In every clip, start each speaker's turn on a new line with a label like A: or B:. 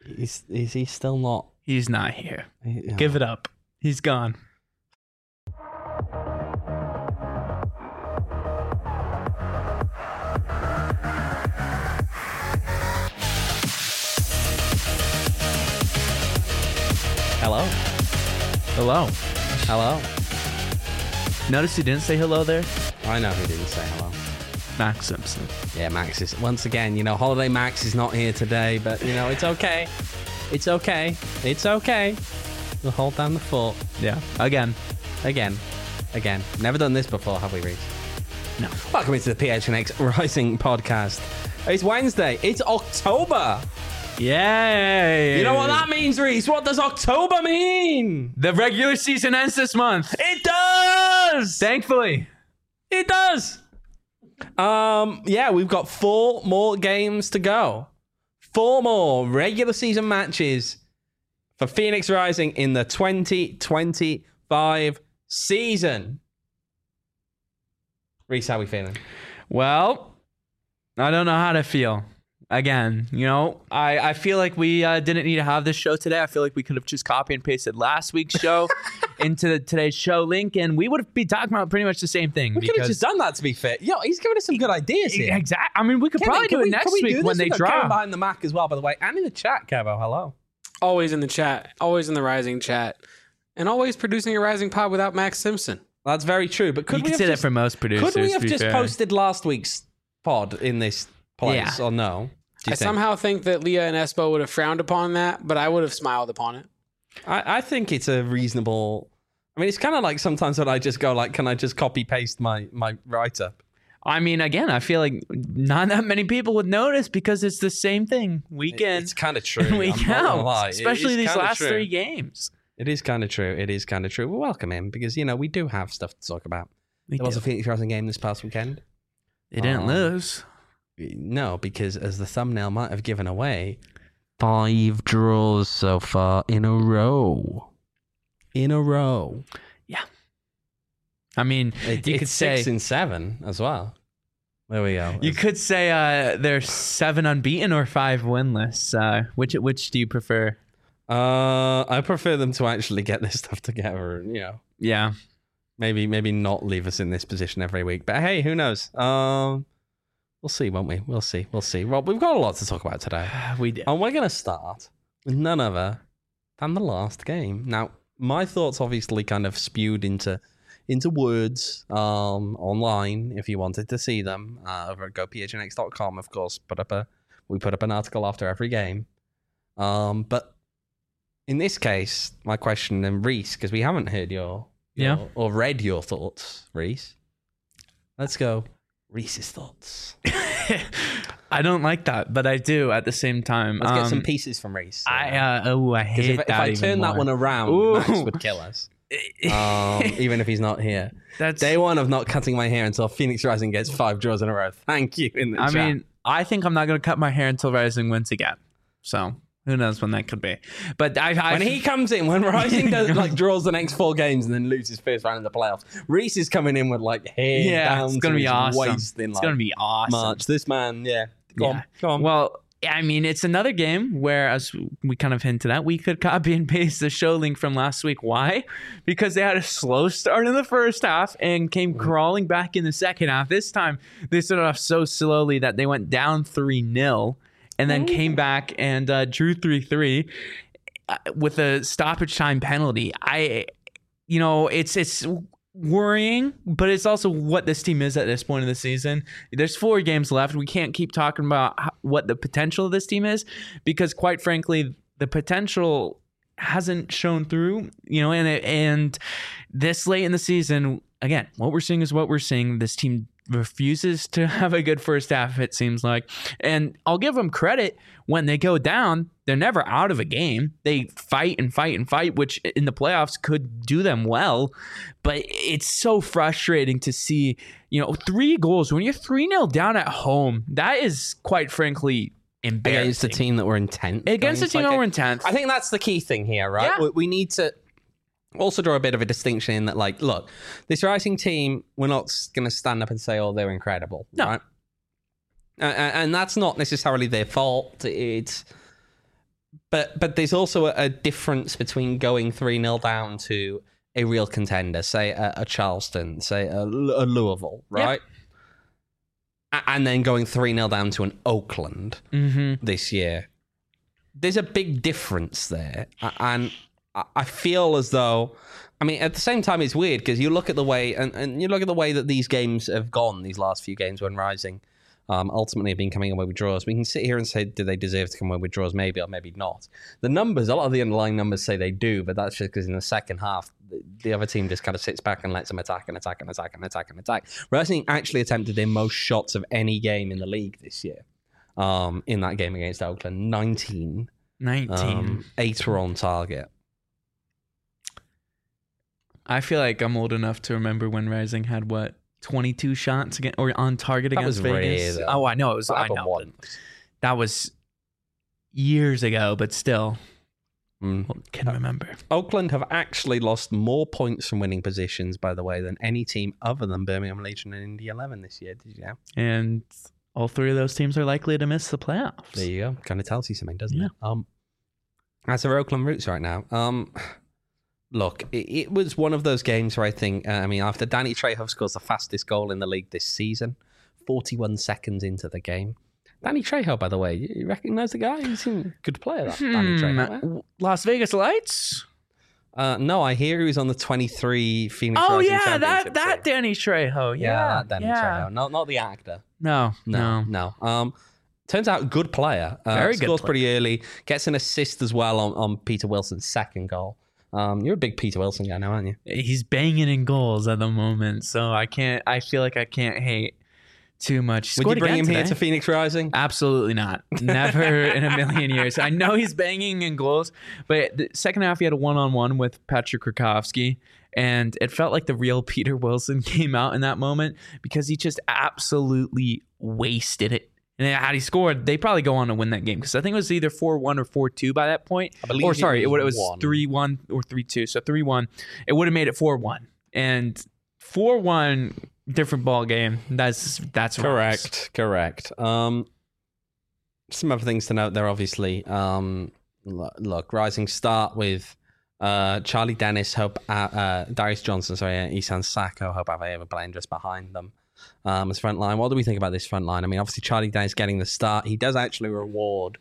A: Is he still not?
B: He's not here. Give it up. He's gone.
A: Hello.
B: Hello.
A: Hello.
B: Notice you didn't say hello there?
A: I know who didn't say hello.
B: Max Simpson.
A: Yeah, Max is, once again, Holiday Max is not here today, but, it's okay. It's okay. It's okay. We'll hold down the fort.
B: Yeah. Again.
A: Never done this before, have we, Reece?
B: No.
A: Welcome into the PHNX Rising podcast. It's Wednesday. It's October.
B: Yay!
A: You know what that means, Reece? What does October mean?
B: The regular season ends this month.
A: It does!
B: Thankfully.
A: It does. Yeah, we've got 4 more games to go. 4 more regular season matches for Phoenix Rising in the 2025 season. Reece, how are we feeling?
B: Well, I don't know how to feel. Again, I feel like we didn't need to have this show today. I feel like we could have just copy and pasted last week's show into today's show link, and we would be talking about pretty much the same thing.
A: We could have just done that, to be fair. Yo, he's giving us some good ideas here.
B: Exactly. I mean, we could probably do it next week when they drop.
A: Kevin behind the Mac as well, by the way, and in the chat, Kevo. Hello.
C: Always in the chat, always in the Rising chat, and always producing a Rising pod without Max Simpson.
A: That's very true. But
B: you could say that for most producers.
A: Could we have just posted last week's pod in this place, or no?
C: I somehow think that Leah and Espo would have frowned upon that, but I would have smiled upon it.
A: I think it's a reasonable... I mean, it's kind of like sometimes when I just go like, can I just copy paste my write-up?
B: I mean, again, I feel like not that many people would notice because it's the same thing week in.
A: It's kind of true.
B: Week out. Especially these last 3 games.
A: It is kind of true. We'll welcome him because, we do have stuff to talk about. There was a Phoenix Rising game this past weekend.
B: They didn't lose.
A: No, because as the thumbnail might have given away, 5 draws so far in a row.
B: Yeah. I mean, you could say
A: 6 and 7 as well. There we go.
B: You could say they're 7 unbeaten or 5 winless. Which do you prefer?
A: I prefer them to actually get this stuff together and,
B: Yeah.
A: Maybe not leave us in this position every week. But hey, who knows? We'll see, won't we? We'll see. Rob, we've got a lot to talk about today.
B: We do.
A: And we're going to start with none other than the last game. Now, my thoughts obviously kind of spewed into words online if you wanted to see them over at gophnx.com, of course. We put up an article after every game. But in this case, my question, and Reece, because we haven't heard your or read your thoughts, Reece. Let's go. Reece's thoughts.
B: I don't like that, but I do at the same time.
A: Let's get some pieces from Reece.
B: I hate
A: if
B: that.
A: I turn that one around, Max would kill us. Even if he's not here.
B: That's
A: day 1 of not cutting my hair until Phoenix Rising gets 5 draws in a row. Thank you in the chat.
B: I mean, I think I'm not going to cut my hair until Rising wins again. So who knows when that could be? But
A: when he comes in, when Rising does draws the next 4 games and then loses first round in the playoffs, Reece is coming in with hair down
B: it's gonna be awesome.
A: Waist in
B: it's gonna be awesome.
A: March. This man, go on.
B: Well, I mean, it's another game where, as we kind of hinted at, we could copy and paste the show link from last week. Why? Because they had a slow start in the first half and came crawling back in the second half. This time, they started off so slowly that they went down 3-0. And then came back and drew 3-3 with a stoppage time penalty. It's worrying, but it's also what this team is at this point in the season. There's 4 games left. We can't keep talking about what the potential of this team is because, quite frankly, the potential hasn't shown through. And this late in the season, again, what we're seeing is what we're seeing. This team refuses to have a good first half, it seems like. And I'll give them credit. When they go down, they're never out of a game. They fight and fight and fight, which in the playoffs could do them well. But it's so frustrating to see, 3 goals. When you're 3-0 down at home, that is, quite frankly, embarrassing.
A: Against a team that were in 10th.
B: Against a team that were in 10th.
A: I think that's the key thing here, right?
B: Yeah.
A: We need to also draw a bit of a distinction in that, look, this Rising team, we're not going to stand up and say, oh, they're incredible.
B: No.
A: Right? And that's not necessarily their fault. But there's also a difference between going 3-0 down to a real contender, say a Charleston, say a Louisville, right? And then going 3-0 down to an Oakland this year. There's a big difference there. And I feel as though, I mean, at the same time, it's weird because you look at the way, and you look at the way that these games have gone, these last few games when Rising ultimately have been coming away with draws. We can sit here and say, do they deserve to come away with draws? Maybe or maybe not. The numbers, a lot of the underlying numbers say they do, but that's just because in the second half, the other team just kind of sits back and lets them attack and attack and attack and attack and attack. Rising actually attempted their most shots of any game in the league this year. In that game against Oakland, 19. 8 were on target.
B: I feel like I'm old enough to remember when Rising had 22 shots again or on target against Vegas.
A: Rare,
B: oh, I know it was. I know
A: once.
B: that was years ago, but still, can remember.
A: Oakland have actually lost more points from winning positions, by the way, than any team other than Birmingham Legion and Indy 11 this year. Did you know?
B: And all three of those teams are likely to miss the playoffs.
A: There you go. Kind of tells you something, doesn't it? As for Oakland Roots right now, look, it was one of those games where I think, after Danny Trejo scores the fastest goal in the league this season, 41 seconds into the game. Danny Trejo, by the way, you recognize the guy? He's a good player, that Danny Trejo.
B: Las Vegas Lights?
A: No, I hear he was on the 23 Phoenix Rising
B: Championship
A: Championship
B: that
A: team.
B: Danny Trejo.
A: That Danny Trejo. Not the actor.
B: No.
A: Turns out, good player.
B: Very good
A: Scores
B: player.
A: pretty early. Gets an assist as well on Peter Wilson's second goal. You're a big Peter Wilson guy now, aren't you?
B: He's banging in goals at the moment, so I feel like I can't hate too much.
A: Would you bring him here to Phoenix Rising?
B: Absolutely not. Never in a million years. I know he's banging in goals, but the second half he had a one-on-one with Patrick Krakowski, and it felt like the real Peter Wilson came out in that moment because he just absolutely wasted it. And had he scored, they probably go on to win that game because I think it was either 4-1 or 4-2 by that point.
A: I believe
B: it was 3-1 or 3-2. So 3-1. It would have made it 4-1. And 4-1, different ball game. That's
A: correct. Some other things to note there, obviously. Look, Rising start with Charlie Dennis, Darius Johnson, Isan Sacco, Hope Avaeva playing just behind them. As front line. What do we think about this front line? I mean, obviously Charlie Dennis getting the start. He does actually reward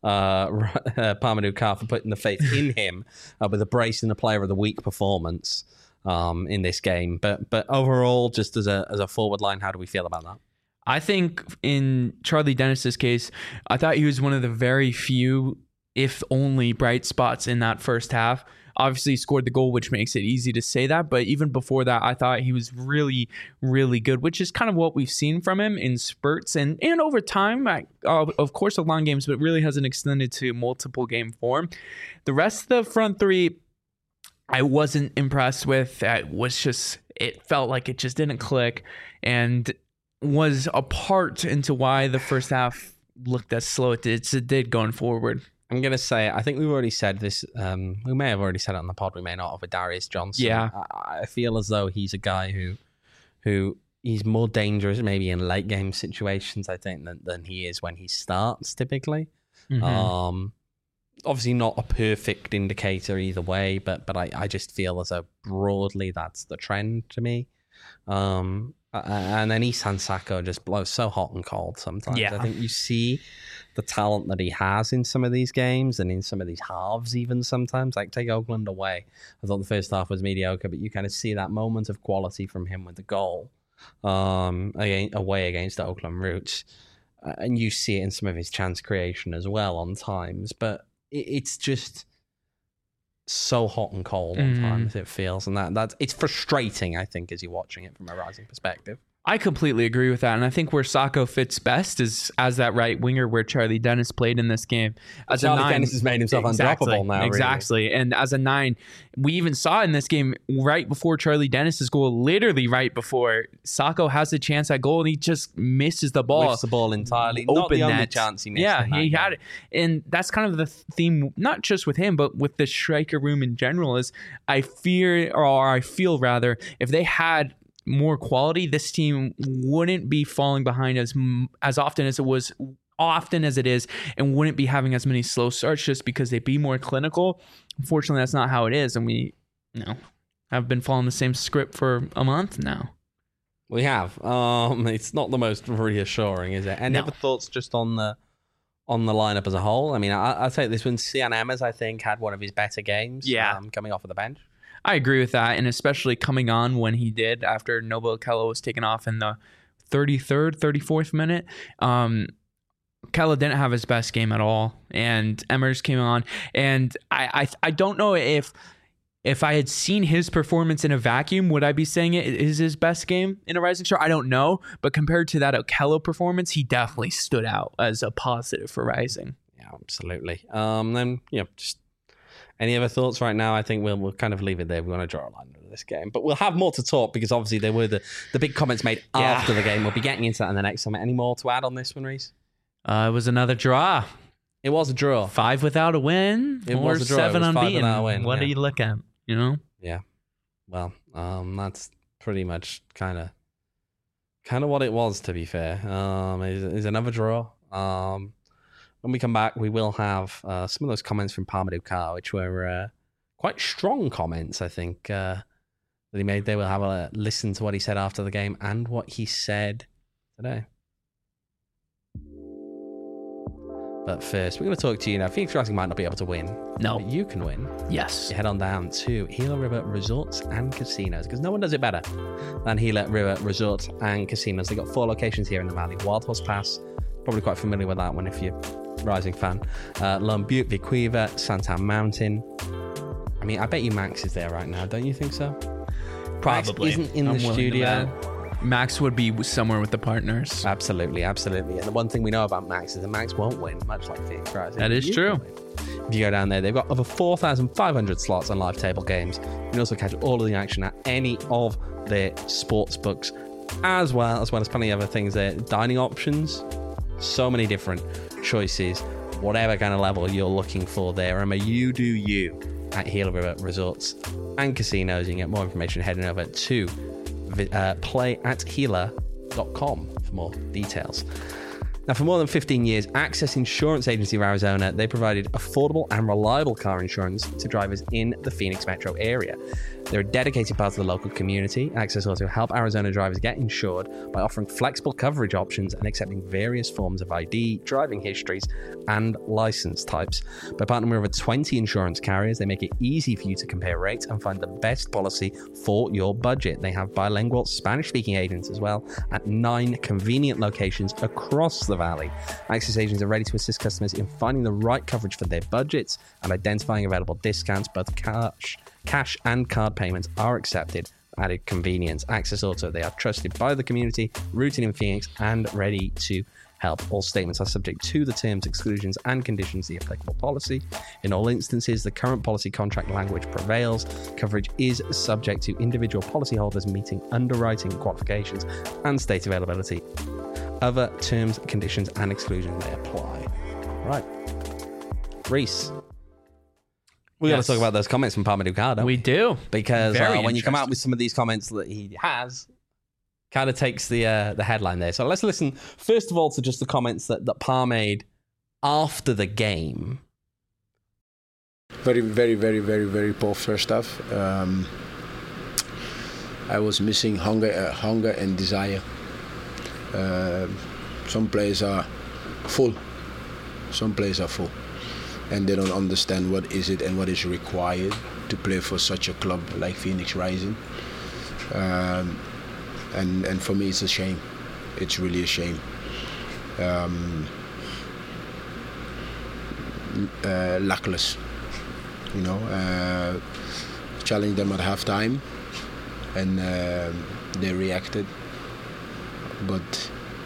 A: Parmadou Carr for putting the faith in him with a brace in the Player of the Week performance in this game. But overall, just as a forward line, how do we feel about that?
B: I think in Charlie Dennis's case, I thought he was one of the very few, if only, bright spots in that first half. Obviously, he scored the goal, which makes it easy to say that. But even before that, I thought he was really, really good, which is kind of what we've seen from him in spurts and over time. Of course, of long games, but really hasn't extended to multiple game form. The rest of the front three, I wasn't impressed with. It felt like it just didn't click and was a part into why the first half looked as slow as it did going forward.
A: I'm going to say, I think we've already said this. We may have already said it on the pod. We may not have with Darius Johnson.
B: Yeah.
A: I feel as though he's a guy who he's more dangerous maybe in late game situations, I think, than he is when he starts typically. Mm-hmm. Obviously not a perfect indicator either way, but I just feel as though broadly that's the trend to me. And then Isan Sacco just blows so hot and cold sometimes.
B: Yeah.
A: I think you see the talent that he has in some of these games and in some of these halves even sometimes. Like take Oakland away. I thought the first half was mediocre, but you kind of see that moment of quality from him with the goal away against the Oakland Roots. And you see it in some of his chance creation as well on times. But it's just so hot and cold on times, it feels. And that's it's frustrating, I think, as you're watching it from a Rising perspective.
B: I completely agree with that. And I think where Sacco fits best is as that right winger where Charlie Dennis played in this game. As
A: Charlie
B: a 9,
A: Dennis has made himself undroppable now.
B: Exactly.
A: Really.
B: And as a 9, we even saw in this game right before Charlie Dennis's goal, literally right before, Sacco has a chance at goal and he just misses the ball.
A: Whiffs the ball entirely.
B: Open
A: Not the only
B: net.
A: chance he missed.
B: Yeah, he had it. And that's kind of the theme, not just with him, but with the striker room in general, is I feel rather, if they had more quality, this team wouldn't be falling behind as often as it was often as it is and wouldn't be having as many slow starts just because they'd be more clinical. Unfortunately, that's not how it is. And we, have been following the same script for a month now.
A: We have. It's not the most reassuring, is it? Any other thoughts just on the lineup as a whole? I mean, I'll take this one. Cian Emmers, I think, had one of his better games. Coming off of the bench.
B: I agree with that, and especially coming on when he did after Noble Okello was taken off in the 33rd, 34th minute. Okello didn't have his best game at all, and Emmers came on, and I don't know if I had seen his performance in a vacuum, would I be saying it is his best game in a Rising Star? I don't know, but compared to that Okello performance, he definitely stood out as a positive for Rising.
A: Yeah, absolutely. Then just any other thoughts right now? I think we'll kind of leave it there. We want to draw a line under this game, but we'll have more to talk because obviously there were the big comments made after the game. We'll be getting into that in the next segment. Any more to add on this one, Reese?
B: It was another draw.
A: It was a draw.
B: 5 without a win.
A: It was a draw.
B: 7 unbeaten. What
A: do
B: you look at?
A: Yeah. Well, that's pretty much kind of what it was, to be fair. Is another draw. When we come back, we will have some of those comments from Parmadou Carr, which were quite strong comments, I think, that he made. They will have a listen to what he said after the game and what he said today. But first, we're going to talk to you now. Phoenix Rising might not be able to win.
B: No.
A: But you can win.
B: Yes.
A: You head on down to Gila River Resorts and Casinos because no one does it better than Gila River Resorts and Casinos. They've got 4 locations here in the valley. Wild Horse Pass, probably quite familiar with that one if you're a Rising fan. Lone Butte, Vicuiva, Santan Mountain. I mean, I bet you Max is there right now. Don't you think so?
B: Probably.
A: Max isn't in the studio.
B: Max would be somewhere with the partners.
A: Absolutely. And the one thing we know about Max is that Max won't win, much like Phoenix Rising.
B: That is true.
A: If you go down there, they've got over 4,500 slots on live table games. You can also catch all of the action at any of their sports books, as well as plenty of other things there. Dining options, so many different choices, whatever kind of level you're looking for there. Remember, you do you at Gila River Resorts and Casinos. You can get more information heading over to playatgila.com for more details. Now, for more than 15 years, Access Insurance Agency of Arizona, they provided affordable and reliable car insurance to drivers in the Phoenix metro area. They're a dedicated part of the local community. Access also help Arizona drivers get insured by offering flexible coverage options and accepting various forms of ID, driving histories, and license types. By partnering with over 20 insurance carriers, they make it easy for you to compare rates and find the best policy for your budget. They have bilingual Spanish-speaking agents as well at 9 convenient locations across the valley. Access agents are ready to assist customers in finding the right coverage for their budgets and identifying available discounts. Both cash and card payments are accepted for added convenience. Access Auto, they are trusted by the community, rooted in Phoenix, and ready to help. All statements are subject to the terms, exclusions, and conditions of the applicable policy. In all instances, the current policy contract language prevails. Coverage is subject to individual policyholders meeting underwriting qualifications and state availability. Other terms, conditions, and exclusions may apply. Right. Reese. We got to talk about those comments from Parmadou Carr, don't we?
B: We do.
A: Because when you come out with some of these comments that he has, kind of takes the headline there. So let's listen, first of all, to just the comments that Parr made after the game.
D: Very, very, very, very, very poor first half. I was missing hunger and desire. Some players are full. And they don't understand what is it and what is required to play for such a club like Phoenix Rising. And for me, it's a shame. It's really a shame. Luckless, challenged them at halftime, and they reacted. But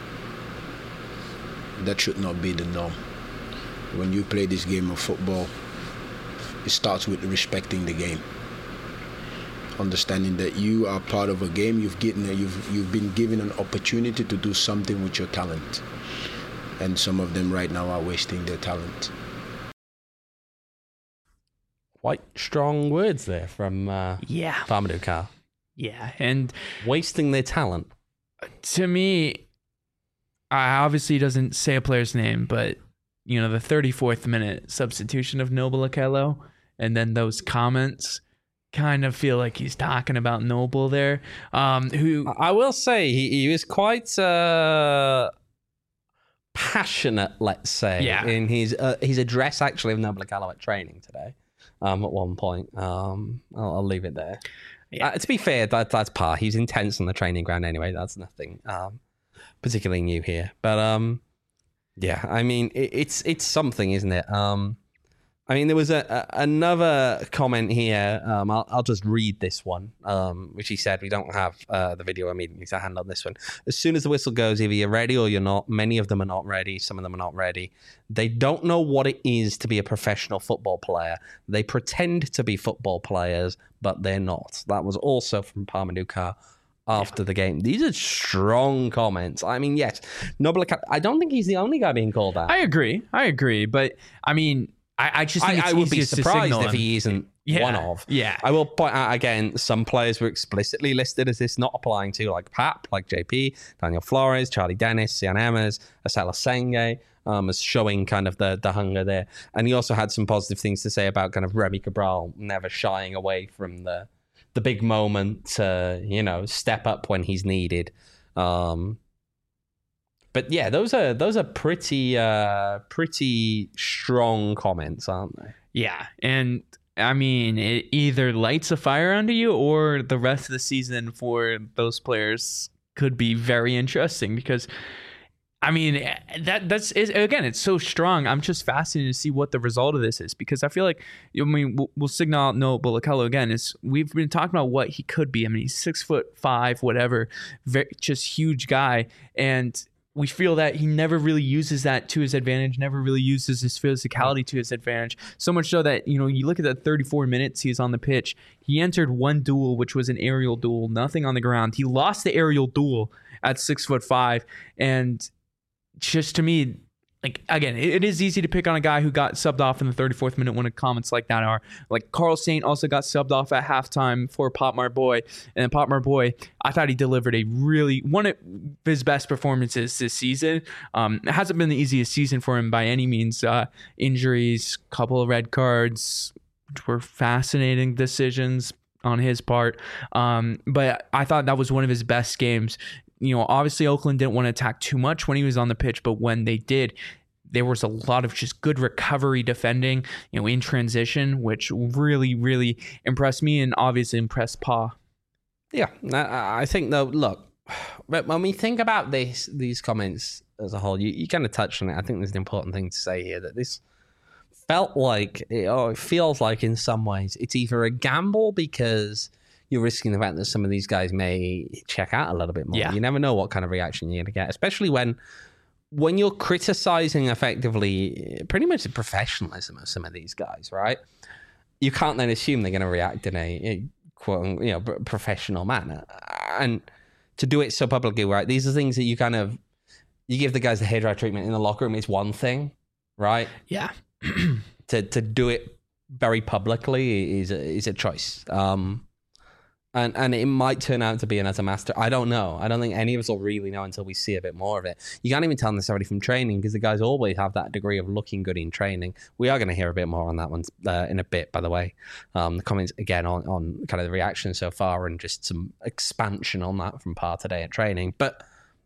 D: that should not be the norm. When you play this game of football, it starts with respecting the game. Understanding that you are part of a game, you've been given an opportunity to do something with your talent. And some of them right now are wasting their talent.
A: Quite strong words there from Parmadou Carr.
B: Yeah, and
A: wasting their talent.
B: To me, obviously doesn't say a player's name, but the 34th minute substitution of Noble Okello, and then those comments kind of feel like he's talking about Noble there. Who
A: I will say he was quite passionate, let's say, in his address actually of Noble Okello at training today. At one point, I'll leave it there. Yeah. To be fair, that's par. He's intense on the training ground anyway. That's nothing particularly new here. But yeah, I mean, it's something, isn't it? I mean, there was another comment here. I'll just read this one, which he said, we don't have the video immediately to hand on this one. As soon as the whistle goes, either you're ready or you're not. Many of them are not ready. Some of them are not ready. They don't know what it is to be a professional football player. They pretend to be football players, but they're not. That was also from Parmadou Ka after the game. These are strong comments. I mean, yes, Noble, I don't think he's the only guy being called out.
B: I agree. But I mean, I just think
A: I would be surprised if he isn't one of.
B: Yeah.
A: I will point out again, some players were explicitly listed as this not applying to, like Pap, like JP, Daniel Flores, Charlie Dennis, Sian Emmers, Asela Senge, as showing kind of the hunger there. And he also had some positive things to say about kind of Remy Cabral never shying away from the big moment to, step up when he's needed. But yeah, those are pretty strong comments, aren't they?
B: Yeah, and I mean, it either lights a fire under you, or the rest of the season for those players could be very interesting. Because, I mean, that's again, it's so strong. I'm just fascinated to see what the result of this is, because I feel like, we'll signal out Noble Okello again. We've been talking about what he could be. I mean, he's 6'5", whatever, just huge guy, and we feel that he never really uses that to his advantage, never really uses his physicality to his advantage. So much so that, you look at the 34 minutes he was on the pitch, he entered one duel, which was an aerial duel, nothing on the ground. He lost the aerial duel at 6'5", and just to me, like, again, it is easy to pick on a guy who got subbed off in the 34th minute when comments like that are. Like, Carl Saint also got subbed off at halftime for Pop Marboy. And Pop Marboy, I thought he delivered one of his best performances this season. It hasn't been the easiest season for him by any means. Injuries, couple of red cards, which were fascinating decisions on his part. But I thought that was one of his best games. Obviously Oakland didn't want to attack too much when he was on the pitch, but when they did, there was a lot of just good recovery defending, in transition, which really, really impressed me and obviously impressed Pa.
A: Yeah, I think though, look, when we think about these comments as a whole, you kind of touched on it. I think there's an important thing to say here, that this felt like, it feels like in some ways, it's either a gamble because you're risking the fact that some of these guys may check out a little bit more. Yeah. You never know what kind of reaction you're going to get, especially when you're criticizing effectively pretty much the professionalism of some of these guys, right? You can't then assume they're going to react in a quote, professional manner. And to do it so publicly, right? These are things that you give the guys the hairdryer treatment in the locker room. It's one thing, right?
B: Yeah.
A: to do it very publicly is a choice. And it might turn out to be an utter master. I don't know. I don't think any of us will really know until we see a bit more of it. You can't even tell necessarily from training, because the guys always have that degree of looking good in training. We are going to hear a bit more on that one in a bit, by the way. The comments, again, on kind of the reaction so far and just some expansion on that from Pa today at training. But,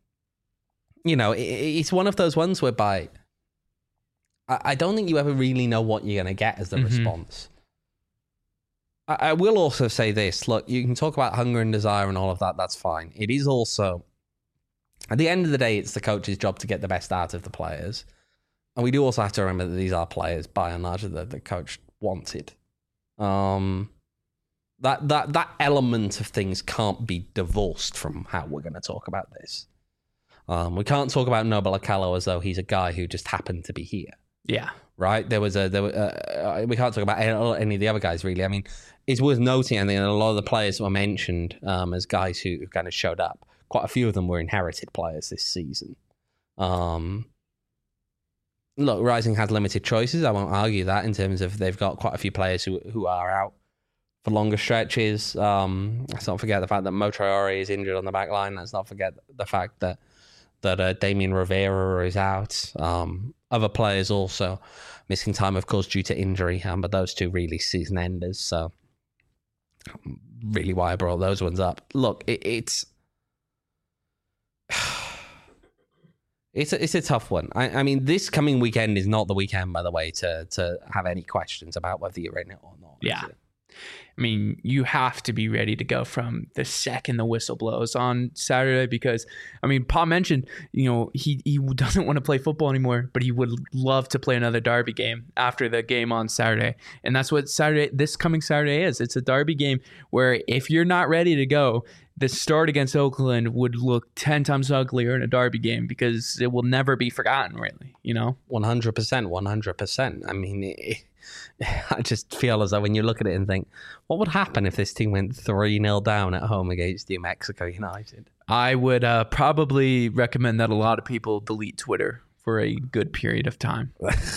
A: it's one of those ones whereby I don't think you ever really know what you're going to get as the response. I will also say this. Look, you can talk about hunger and desire and all of that. That's fine. It is also, at the end of the day, it's the coach's job to get the best out of the players. And we do also have to remember that these are players, by and large, that the coach wanted. That element of things can't be divorced from how we're going to talk about this. We can't talk about Noble Okello as though he's a guy who just happened to be here.
B: Yeah.
A: Right? We can't talk about any of the other guys, really. I mean, it's worth noting, I think, a lot of the players that were mentioned as guys who kind of showed up, quite a few of them were inherited players this season. Look, Rising has limited choices. I won't argue that, in terms of they've got quite a few players who are out for longer stretches. Let's not forget the fact that Mo Traore is injured on the back line. Let's not forget the fact that that Damien Rivera is out. Other players also missing time, of course, due to injury, but those two really season enders. So really why I brought those ones up. Look, it's a tough one. I mean, this coming weekend is not the weekend, by the way, to have any questions about whether you're in it or not.
B: Yeah. I mean, you have to be ready to go from the second the whistle blows on Saturday because, I mean, Paul mentioned, he doesn't want to play football anymore, but he would love to play another derby game after the game on Saturday. And that's what this coming Saturday is. It's a derby game where if you're not ready to go, the start against Oakland would look 10 times uglier in a derby game because it will never be forgotten, really,
A: 100%. I mean, I just feel as though when you look at it and think, what would happen if this team went 3-0 down at home against New Mexico United?
B: I would probably recommend that a lot of people delete Twitter for a good period of time.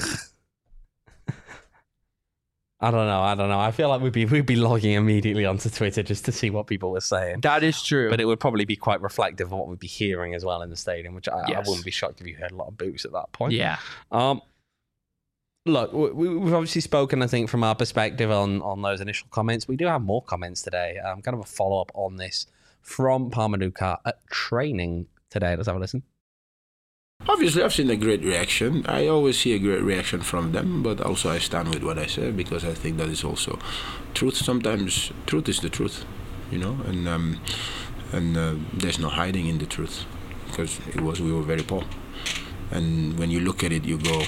A: I don't know. I feel like we'd be logging immediately onto Twitter just to see what people were saying.
B: That is true.
A: But it would probably be quite reflective of what we'd be hearing as well in the stadium, which I wouldn't be shocked if you heard a lot of boos at that point.
B: Yeah.
A: Look, we've obviously spoken, I think, from our perspective on those initial comments. We do have more comments today. Kind of a follow-up on this from Parmaduka at training today. Let's have a listen.
D: Obviously, I've seen a great reaction. I always see a great reaction from them, but also I stand with what I say because I think that is also truth. Sometimes truth is the truth, and there's no hiding in the truth because we were very poor. And when you look at it, you go,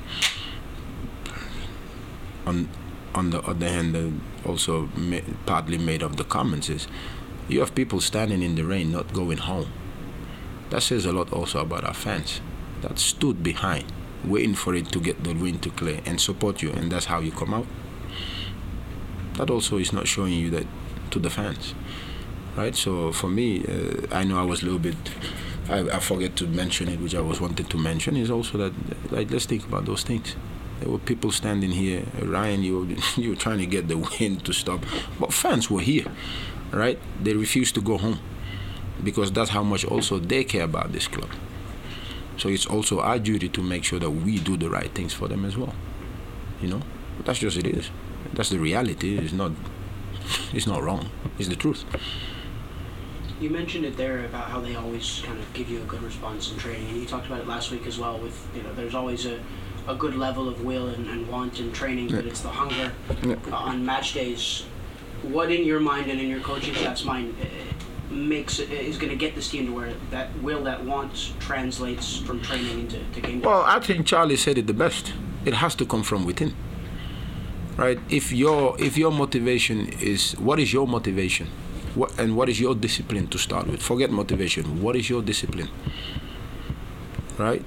D: on the other hand, also partly made of the comments is you have people standing in the rain not going home. That says a lot also about our fans that stood behind waiting for it to get the wind to clear and support you, and that's how you come out. That also is not showing you that to the fans, right? So for me, I know I was a little bit I forget to mention it, which I was wanted to mention, is also that let's think about those things. There were people standing here. Ryan, you were trying to get the wind to stop. But fans were here, right? They refused to go home because that's how much also they care about this club. So it's also our duty to make sure that we do the right things for them as well. But that's just it is. That's the reality. It's not wrong. It's the truth.
E: You mentioned it there about how they always kind of give you a good response in training, and you talked about it last week as well with, there's always a good level of will and want in training, but it's the hunger on match days. What in your mind and in your coaching staff's mind is going to get this team to where that will, that want translates from training into game day?
D: Well, I think Charlie said it the best. It has to come from within, right? If your motivation is, what is your motivation? What is your discipline to start with? Forget motivation. What is your discipline? Right?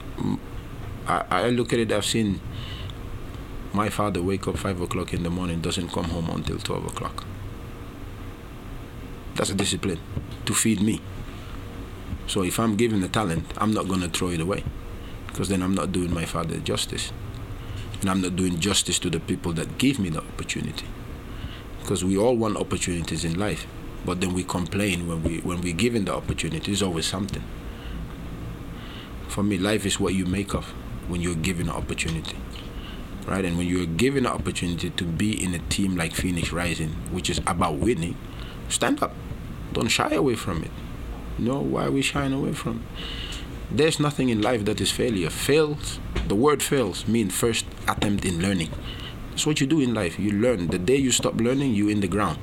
D: I look at it, I've seen my father wake up 5 o'clock in the morning, doesn't come home until 12 o'clock. That's a discipline to feed me. So if I'm given the talent, I'm not going to throw it away because then I'm not doing my father justice. And I'm not doing justice to the people that gave me the opportunity. Because we all want opportunities in life, but then we complain when we're given the opportunity. There's always something. For me, life is what you make of when you're given an opportunity, right? And when you're given an opportunity to be in a team like Phoenix Rising, which is about winning, stand up. Don't shy away from it. Why are we shying away from it? There's nothing in life that is failure. Fails, the word fails means first attempt in learning. That's what you do in life. You learn. The day you stop learning, you're in the ground.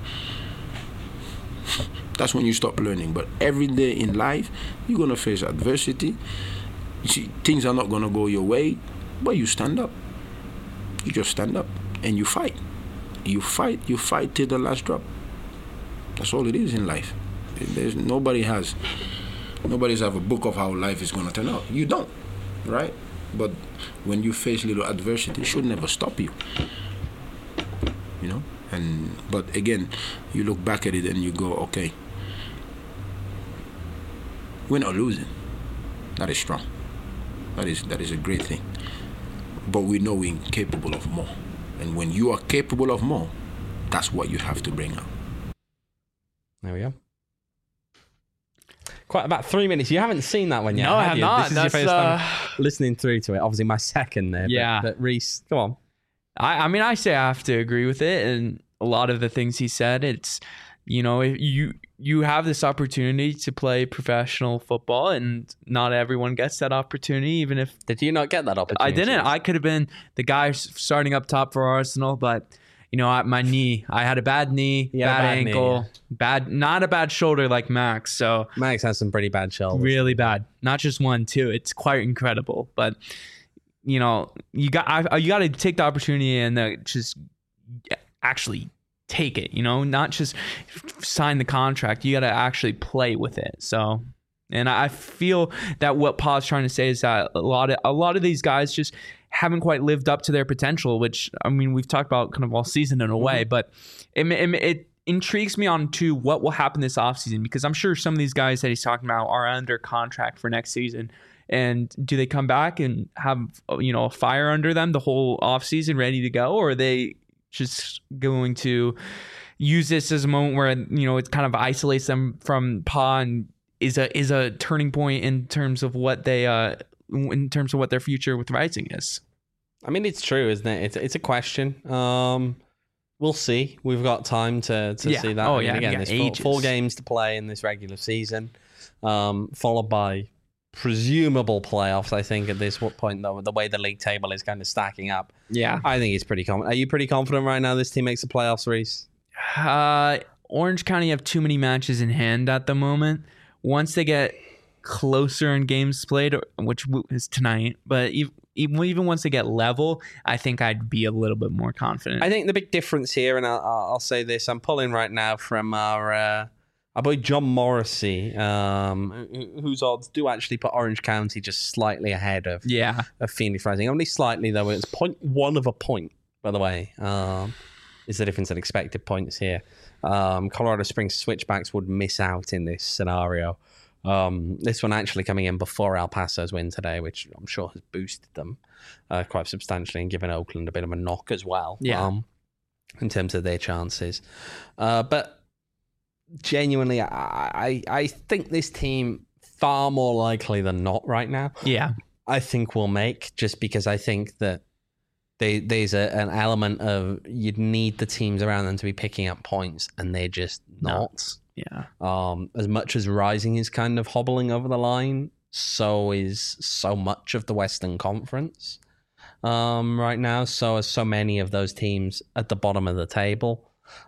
D: That's when you stop learning. But every day in life, you're going to face adversity. You see, things are not going to go your way, but you stand up. You just stand up and you fight. You fight till the last drop. That's all it is in life. Nobody's have a book of how life is going to turn out. You don't, right? But when you face little adversity, it should never stop you. But again, you look back at it and you go, okay, we're not losing. That is strong. That is a great thing. But we know we're capable of more. And when you are capable of more, that's what you have to bring out.
A: There we go. quite about 3 minutes. You haven't seen that one yet.
B: No, I
A: have
B: have
A: you?
B: not.
A: This is your
B: That's,
A: first time listening through to it. Obviously, my second there.
B: Yeah.
A: But Reese, come on.
B: I mean, I say I have to agree with it, and a lot of the things he said. It's, you know, if you have this opportunity to play professional football, and not everyone gets that opportunity. Even if
A: Did you not get that opportunity?
B: I didn't, I could have been the guy starting up top for Arsenal, but you know, my knee, I had a bad knee,
A: You had a
B: bad
A: bad knee,
B: ankle, not a bad shoulder like Max. So
A: Max has some pretty bad shoulders.
B: really bad, not just one, too. It's quite incredible, but. You know, you got to take the opportunity and just actually take it. You know, not just sign the contract. You got to actually play with it. So, and I feel that what Pa's trying to say is that a lot of these guys just haven't quite lived up to their potential. Which, I mean, we've talked about kind of all season in a way, but it intrigues me on to what will happen this offseason, because I'm sure some of these guys that he's talking about are under contract for next season. And do they come back and have, you know, a fire under them the whole offseason ready to go? Or are they just going to use this as a moment where, you know, it kind of isolates them from Pa and is a turning point in terms of what they in terms of what their future with Rising is?
A: I mean, it's true, isn't it? It's a question. We'll see. We've got time to see that.
B: Oh,
A: I mean,
B: yeah.
A: Again,
B: There's
A: there's four games to play in this regular season, followed by presumable playoffs. I think at this point, though, the way the league table is kind of stacking up,
B: Yeah.
A: I think it's pretty confident. Are you pretty confident right now this team makes the playoffs, Reese?
B: Orange County have too many matches in hand at the moment. Once they get closer in games played, which is tonight, but even once they get level, I think I'd be a little bit more confident.
A: I think the big difference here, and I'll say this, I'm pulling right now from our boy John Morrissey, whose odds do actually put Orange County just slightly ahead of Phoenix Rising. Only slightly, though. It's 0.1 of a point, by the way, is the difference in expected points here. Colorado Springs Switchbacks would miss out in this scenario. This one actually coming in before El Paso's win today, which I'm sure has boosted them quite substantially and given Oakland a bit of a knock as well. In terms of their chances. But genuinely, I think this team, far more likely than not right now, I think will make, just because I think that there's an element of you'd need the teams around them to be picking up points, and they're just not. As much as Rising is kind of hobbling over the line, so is so much of the Western Conference right now. So are so many of those teams at the bottom of the table.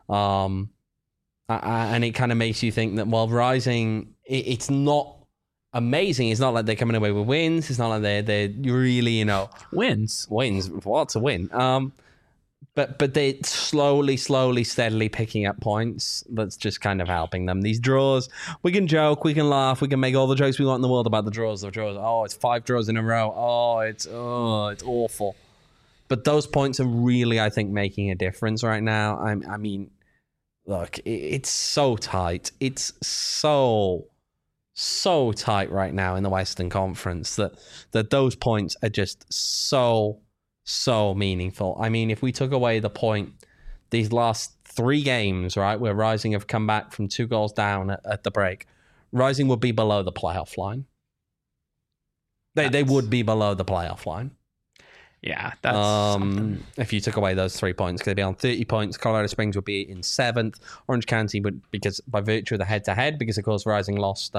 A: And it kind of makes you think that while Rising, it's not amazing. It's not like they're coming away with wins. It's not like they're really, you know,
B: wins.
A: What's a win? But they're slowly, steadily picking up points. That's just kind of helping them. These draws, we can joke, we can laugh, we can make all the jokes we want in the world about the draws. Oh, it's 5 draws in a row. Oh, it's awful. But those points are really, I think, making a difference right now. I mean, look, it's so tight. It's so tight right now in the Western Conference that those points are just so meaningful. I mean, if we took away the point, these last 3 games, right, where Rising have come back from 2 goals down at the break, Rising would be below the playoff line. They would be below the playoff line.
B: Yeah, that's something.
A: If you took away those 3 points, they'd be on 30 points. Colorado Springs would be in 7th. Orange County would, because by virtue of the head-to-head, because of course Rising lost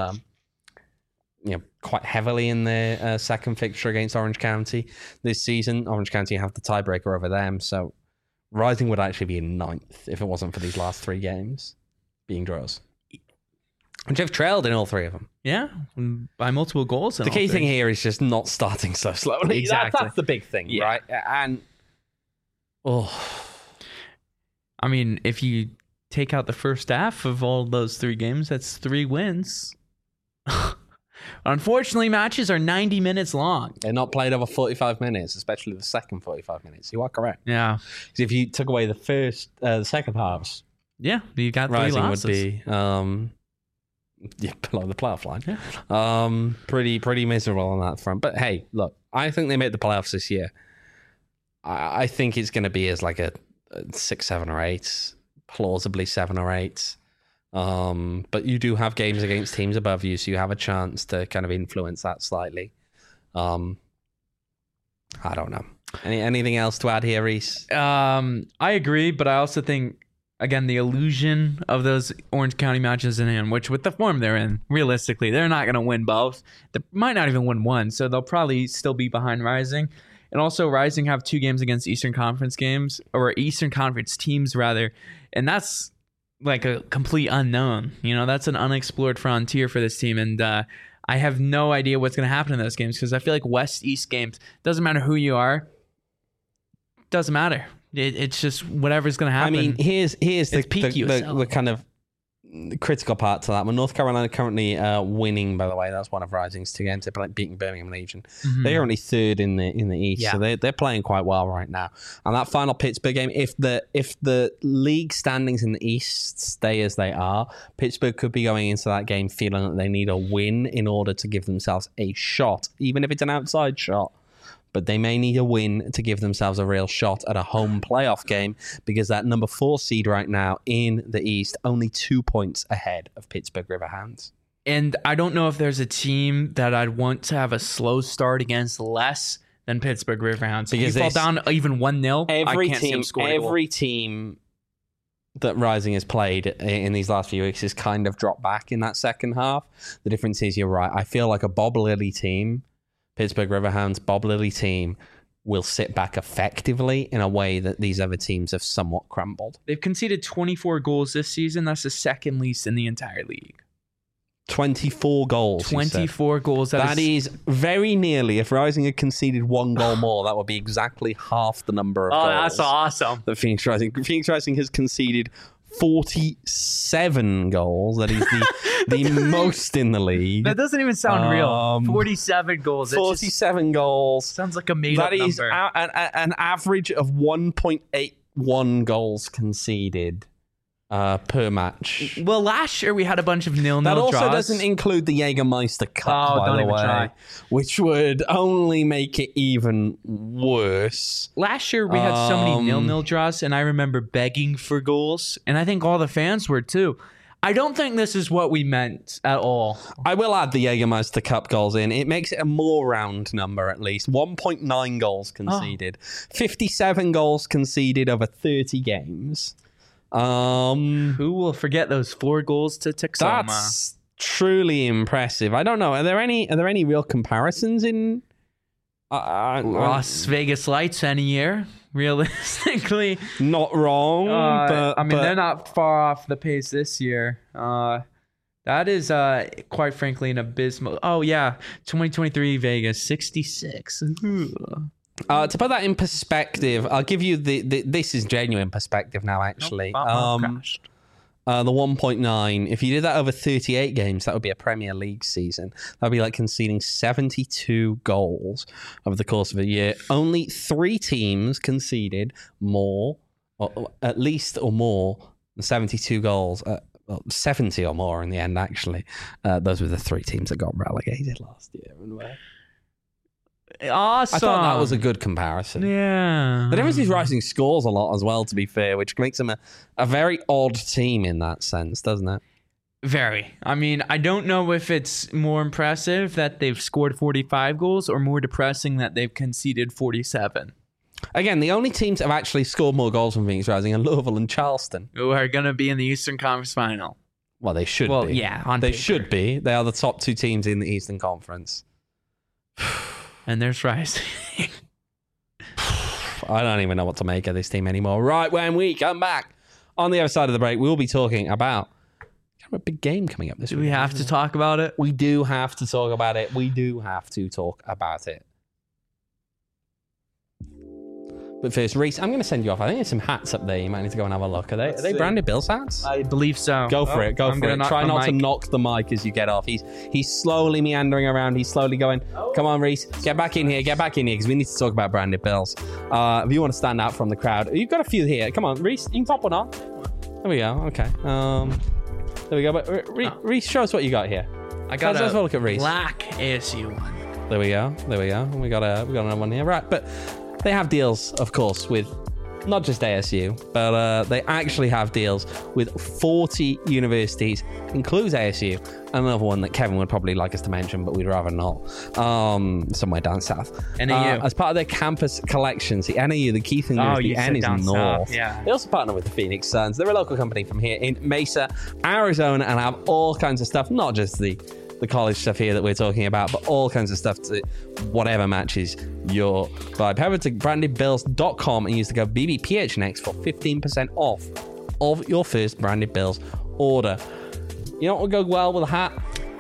A: quite heavily in their second fixture against Orange County this season. Orange County have the tiebreaker over them, so Rising would actually be in 9th if it wasn't for these last 3 games being draws. And Jeff trailed in all 3 of them.
B: Yeah, by multiple goals.
A: The key thing here is just not starting so slowly.
B: Exactly.
A: That's the big thing, right? And
B: I mean, if you take out the first half of all those 3 games, that's 3 wins. Unfortunately, matches are 90 minutes long.
A: They're not played over 45 minutes, especially the second 45 minutes. You are correct.
B: Yeah.
A: Because if you took away the second halves,
B: you got 3
A: Rising
B: losses.
A: would be below the playoff line. Yeah. Pretty miserable on that front. But hey, look, I think they made the playoffs this year. I think it's going to be as like a 6, 7, or 8, plausibly 7 or 8. But you do have games against teams above you, so you have a chance to kind of influence that slightly. I don't know. Anything else to add here, Reese?
B: I agree, but I also think, again, the illusion of those Orange County matches in hand, which with the form they're in, realistically, they're not going to win both. They might not even win one, so they'll probably still be behind Rising. And also, Rising have 2 games against Eastern Conference games, or Eastern Conference teams, rather. And that's like a complete unknown. You know, that's an unexplored frontier for this team. And I have no idea what's going to happen in those games, because I feel like West-East games, doesn't matter who you are, doesn't matter. It's just whatever's going to happen.
A: I mean, here's the
B: PQSL.
A: kind of critical part to that. Well, North Carolina currently winning, by the way. That's one of Rising's 2 games. They're beating Birmingham Legion.
B: Mhm.
A: They're only 3rd in the East, so they're playing quite well right now. And that final Pittsburgh game, if the league standings in the East stay as they are, Pittsburgh could be going into that game feeling that they need a win in order to give themselves a shot, even if it's an outside shot. But they may need a win to give themselves a real shot at a home playoff game, because that number 4 seed right now in the East, only 2 points ahead of Pittsburgh Riverhounds.
B: And I don't know if there's a team that I'd want to have a slow start against less than Pittsburgh Riverhounds. Because if you fall down even 1-0, I can't see them score a goal.
A: Every team that Rising has played in these last few weeks has kind of dropped back in that second half. The difference is, you're right, I feel like a Bob Lilly team, Pittsburgh Riverhounds, Bob Lilly team, will sit back effectively in a way that these other teams have somewhat crumbled.
B: They've conceded 24 goals this season. That's the second least in the entire league.
A: 24 goals.
B: 24 goals.
A: That is very nearly, if Rising had conceded 1 goal more, that would be exactly half the number of goals.
B: Oh, that's awesome.
A: That Phoenix Rising has conceded 47 goals. That is the most in the league.
B: That doesn't even sound real. 47 goals.
A: 47 goals.
B: Sounds like a made-up number.
A: That is an average of 1.81 goals conceded per match.
B: Well, last year we had a bunch of 0-0
A: That also
B: draws.
A: doesn't include the Jägermeister Cup, by the way, which would only make it even worse.
B: Last year we had so many 0-0 draws, and I remember begging for goals, and I think all the fans were too. I don't think this is what we meant at all.
A: I will add the Jägermeister Cup goals in. It makes it a more round number, at least. 1.9 goals conceded. 57 goals conceded over 30 games.
B: Who will forget those 4 goals to Texoma?
A: That's truly impressive. I don't know. Are there any real comparisons in
B: Las Vegas Lights any year? Realistically,
A: not wrong. But
B: they're not far off the pace this year. That is, quite frankly, an abysmal. Oh yeah, 2023 Vegas 66.
A: To put that in perspective, I'll give you this is genuine perspective now, actually. The 1.9, if you did that over 38 games, that would be a Premier League season. That would be like conceding 72 goals over the course of a year. Only 3 teams conceded more, or at least or more, than 72 goals. 70 or more in the end, actually. Those were the 3 teams that got relegated last year.
B: Awesome.
A: I thought that was a good comparison.
B: Yeah.
A: The difference is Rising scores a lot as well, to be fair, which makes them a very odd team in that sense, doesn't it?
B: Very. I mean, I don't know if it's more impressive that they've scored 45 goals or more depressing that they've conceded 47.
A: Again, the only teams that have actually scored more goals than Phoenix Rising are Louisville and Charleston.
B: Who are going to be in the Eastern Conference Final.
A: Well, they should be.
B: Well, yeah,
A: they should be. They are the top 2 teams in the Eastern Conference.
B: And there's Rising.
A: I don't even know what to make of this team anymore. Right, when we come back on the other side of the break, we'll be talking about a big game coming up this week.
B: Do we have to talk about it?
A: We do have to talk about it. We do have to talk about it. But first, Reese, I'm going to send you off. I think there's some hats up there. You might need to go and have a look. Are they branded Bills hats?
B: I believe so.
A: Go for it. Go for it. Try not to knock the mic as you get off. He's slowly meandering around. He's slowly going, come on, Reese. Get back in here. Get back in here because we need to talk about branded Bills. If you want to stand out from the crowd. You've got a few here. Come on, Reese. You can top one on. There we go. Okay. There we go. But Reese, show us what you got here.
B: I got
A: Let's look at Reese.
B: Black ASU one.
A: There we go. We got another one here. Right. But they have deals, of course, with not just ASU, but they actually have deals with 40 universities, includes ASU, another one that Kevin would probably like us to mention, but we'd rather not, somewhere down south.
B: NAU.
A: As part of their campus collections, the NAU, the Keith University, N is
B: down
A: north.
B: south, yeah.
A: They also partner with the Phoenix Suns. They're a local company from here in Mesa, Arizona, and have all kinds of stuff, not just the college stuff here that we're talking about, but all kinds of stuff to whatever matches your vibe. Head over to brandedbills.com and use the code BBPHNX for 15% off of your first Branded Bills order. You know what would go well with a hat?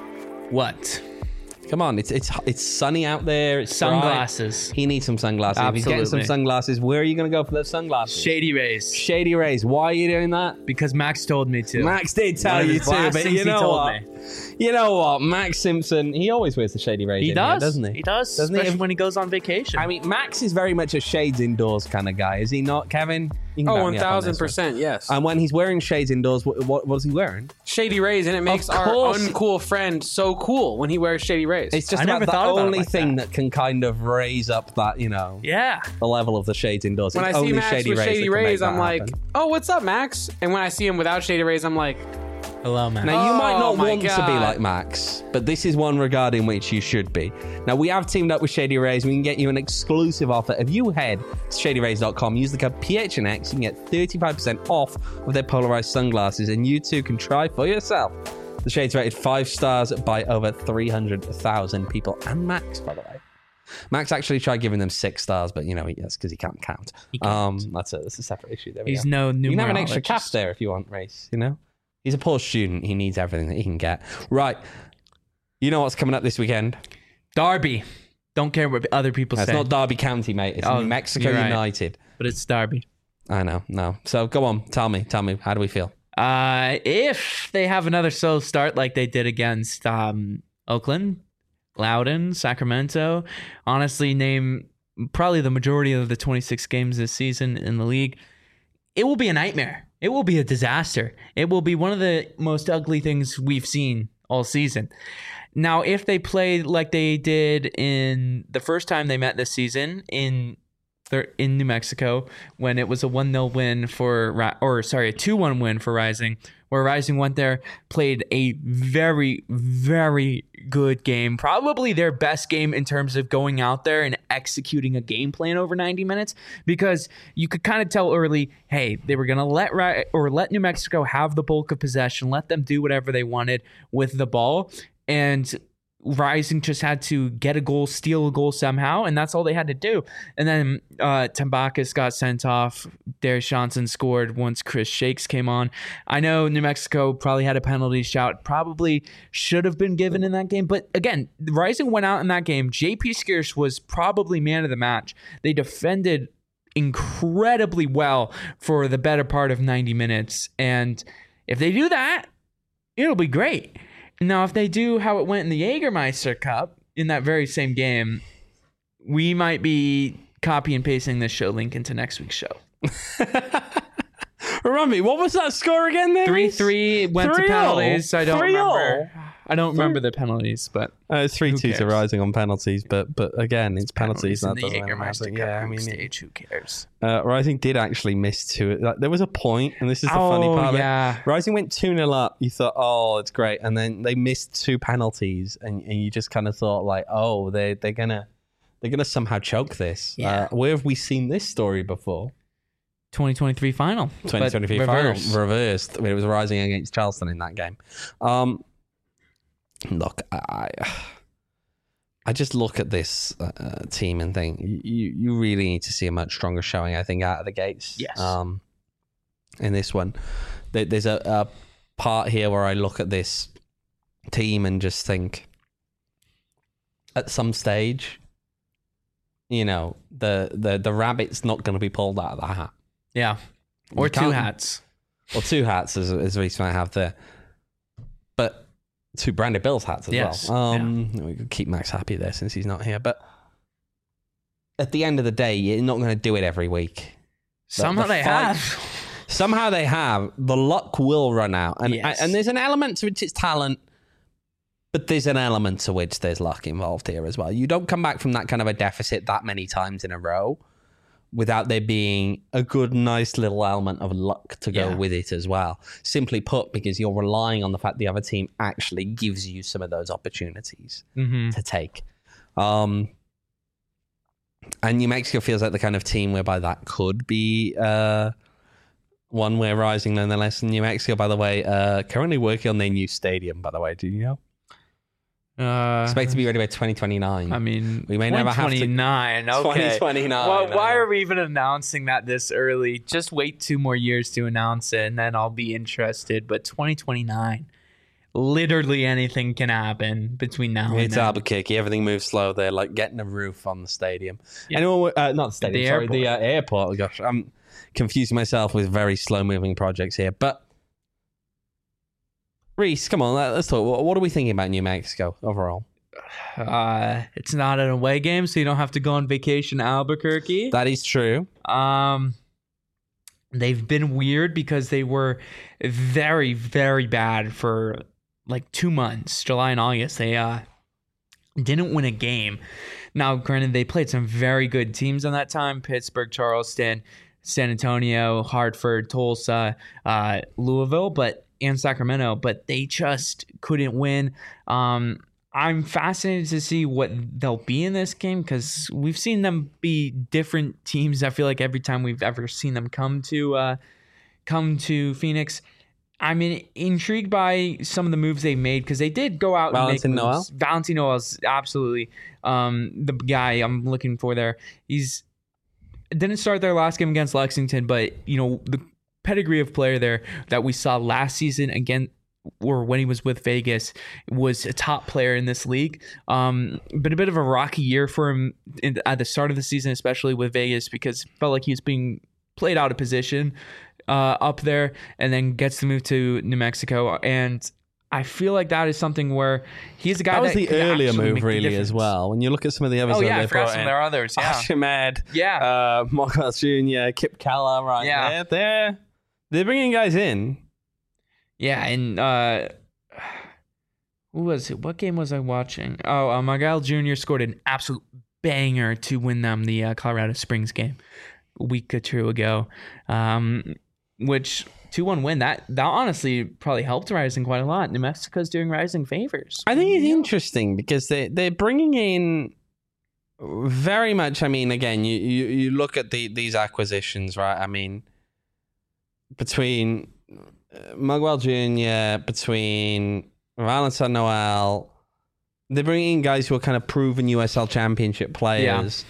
B: What?
A: Come on, it's sunny out there. It's
B: Sunglasses.
A: bright. He needs some sunglasses. If he's getting some
B: Absolutely.
A: sunglasses, where are you going to go for those sunglasses?
B: Shady Rays.
A: Shady Rays. Why are you doing that?
B: Because Max told me to.
A: Max did tell
B: One of
A: you
B: his
A: to,
B: last
A: but
B: things
A: you
B: he
A: know
B: told
A: what?
B: me.
A: You know what? Max Simpson, he always wears the Shady Rays.
B: He
A: in
B: does,
A: here, doesn't he?
B: He does,
A: Doesn't he?
B: especially when he goes on vacation.
A: I mean, Max is very much a shades indoors kind of guy, is he not, Kevin? You can
C: Oh,
A: back me up on this one.
C: 1000%, yes.
A: And when he's wearing shades indoors, what is he wearing?
C: Shady Rays, and it makes our
A: course.
C: uncool friend so cool when he wears Shady Rays.
A: It's just
B: I
A: about
B: never
A: the
B: thought about it
A: only
B: like
A: thing that can kind of raise up that,
B: yeah.
A: the level of the shades indoors.
C: when
A: It's
C: I see
A: only
C: Max
A: Shady
C: with
A: Rays
C: Shady
A: that can make
C: Rays,
A: that
C: I'm like,
A: happen.
C: oh, what's up, Max? And when I see him without Shady Rays, I'm like,
B: Hello, man.
A: Now, you might not
C: Oh my
A: want to be
C: God.
A: like Max, but this is one regarding which you should be. Now, we have teamed up with Shady Rays. We can get you an exclusive offer. If you head to shadyrays.com, use the code PHNX, you can get 35% off of their polarized sunglasses, and you too can try for yourself. The Shades rated 5 stars by over 300,000 people. And Max, by the way. Max actually tried giving them 6 stars, but, that's because he can't count. That's a separate issue. There we
B: He's
A: go.
B: no numerologist.
A: You can have an extra cap there if you want, Race, He's a poor student. He needs everything that he can get. Right. You know what's coming up this weekend?
B: Derby. Don't care what other people
A: It's
B: say.
A: not Derby County, mate. It's New Mexico
B: you're right.
A: United.
B: But it's Derby.
A: I know. No. So go on. Tell me. How do we feel?
B: If they have another slow start like they did against Oakland, Loudoun, Sacramento, honestly, name probably the majority of the 26 games this season in the league, it will be a nightmare. It will be a disaster. It will be one of the most ugly things we've seen all season. Now, if they play like they did in the first time they met this season in New Mexico, when it was a 1-0 win a 2-1 win for Rising, where Rising went there, played a very, very good game, probably their best game in terms of going out there and executing a game plan over 90 minutes, because you could kind of tell early, hey, they were going to let New Mexico have the bulk of possession, let them do whatever they wanted with the ball, and Rising just had to get a goal, steal a goal somehow, and that's all they had to do. And then Tambakis got sent off. Darius Johnson scored once Chris Shakes came on. I know New Mexico probably had a penalty shout, probably should have been given in that game. But again, Rising went out in that game. JP Skeers was probably man of the match. They defended incredibly well for the better part of 90 minutes. And if they do that, it'll be great. Now, if they do how it went in the Jägermeister Cup in that very same game, we might be copy and pasting this show link into next week's show.
A: Remind me, what was that score again there?
B: 3-3 went to
A: 3-0.
B: penalties. I don't
A: 3-0.
B: remember. I don't remember the penalties, but
A: It's 3-2 to
B: cares?
A: Rising on penalties, but again, it's penalties.
B: in
A: That
B: the
A: doesn't really
B: Jägermeister
A: matter.
B: Cup
A: Yeah, I
B: group
A: mean,
B: stage, who cares?
A: Rising did actually miss 2. Like, there was a point, and this is the funny part.
B: yeah.
A: Of it. Rising went 2-0 up. You thought, oh, it's great, and then they missed 2 penalties, and you just kind of thought, like, oh, they're gonna somehow choke this.
B: Yeah.
A: Where have we seen this story before?
B: 2023 final.
A: 2023
B: but
A: final
B: reversed.
A: reversed. It was Rising against Charleston in that game. Look, I just look at this team and think you really need to see a much stronger showing, I think, out of the gates.
B: Yes.
A: In this one, there's a part here where I look at this team and just think, at some stage, the rabbit's not going to be pulled out of the hat.
B: Yeah. Or
A: You
B: 2
A: can't-
B: hats.
A: Or 2 hats, as Reese might have there. But 2 Branded Bills hats as
B: Yes,
A: well. We could keep Max happy there since he's not here. But at the end of the day, you're not going to do it every week.
B: Somehow
A: the
B: they
A: fight-
B: have.
A: Somehow they have. The luck will run out. And,
B: Yes.
A: and there's an element to which it's talent, but there's an element to which there's luck involved here as well. You don't come back from that kind of a deficit that many times in a row without there being a good, nice little element of luck to go
B: Yeah.
A: with it as well. Simply put, because you're relying on the fact the other team actually gives you some of those opportunities to take. And New Mexico feels like the kind of team whereby that could be one where Rising nonetheless. And New Mexico, by the way, currently working on their new stadium, by the way. Do you know? Expect to be ready by 2029.
B: I mean,
A: We may never have to-
B: 2029. Okay.
A: 2029.
B: Well,
A: I
B: why
A: know.
B: are we even announcing that this early? Just wait 2 more years to announce it, and then I'll be interested. But 2029, literally anything can happen between now and
A: It's
B: then.
A: Albuquerque. Everything moves slow. They're like getting a roof on the stadium.
B: Yeah.
A: Anyone? Not the stadium.
B: The
A: sorry,
B: airport.
A: the airport. Oh, gosh, I'm confusing myself with very slow-moving projects here. But Reese, come on, let's talk. What are we thinking about New Mexico overall?
B: It's not an away game, so you don't have to go on vacation to Albuquerque.
A: That is true.
B: They've been weird because they were very, very bad for like 2 months, July and August. They didn't win a game. Now, granted, they played some very good teams on that time: Pittsburgh, Charleston, San Antonio, Hartford, Tulsa, Louisville, and Sacramento. But they just couldn't win. I'm fascinated to see what they'll be in this game because we've seen them be different teams. I feel like every time we've ever seen them come to Phoenix. I'm intrigued by some of the moves they made because they did go out
A: Valentin
B: and make
A: Noel?
B: moves. Valentin Noel is absolutely the guy I'm looking for there. He's didn't start their last game against Lexington, but the pedigree of player there that we saw last season again, or when he was with Vegas, was a top player in this league. Been a bit of a rocky year for him at the start of the season, especially with Vegas, because it felt like he was being played out of position up there, and then gets to move to New Mexico. And I feel like that is something where he's a guy
A: That was the
B: could
A: earlier
B: actually
A: move,
B: make the
A: really, as
B: difference.
A: well. When you look at some of the others
B: Oh
A: that
B: yeah,
A: they
B: I forgot
A: brought
B: some
A: in.
B: of their others. Yeah,
A: Ahmed,
B: yeah.
A: Marcos Jr., Kip Keller, right
B: Yeah.
A: there. They're bringing guys in.
B: Yeah, and who was it? What game was I watching? Oh, Miguel Jr. scored an absolute banger to win them the Colorado Springs game a week or two ago, which 2-1 win. That honestly probably helped Rising quite a lot. New Mexico's doing Rising favors.
A: I think it's interesting because they're bringing in very much. I mean, again, you look at these acquisitions, right? I mean, between Miguel Jr., between Valentin Noel, they're bringing in guys who are kind of proven USL Championship players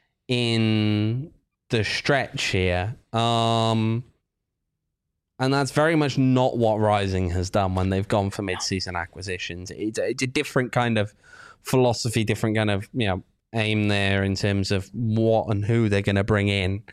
A: in the stretch here. And that's very much not what Rising has done when they've gone for mid-season acquisitions. It's a different kind of philosophy, different kind of aim there in terms of what and who they're going to bring in.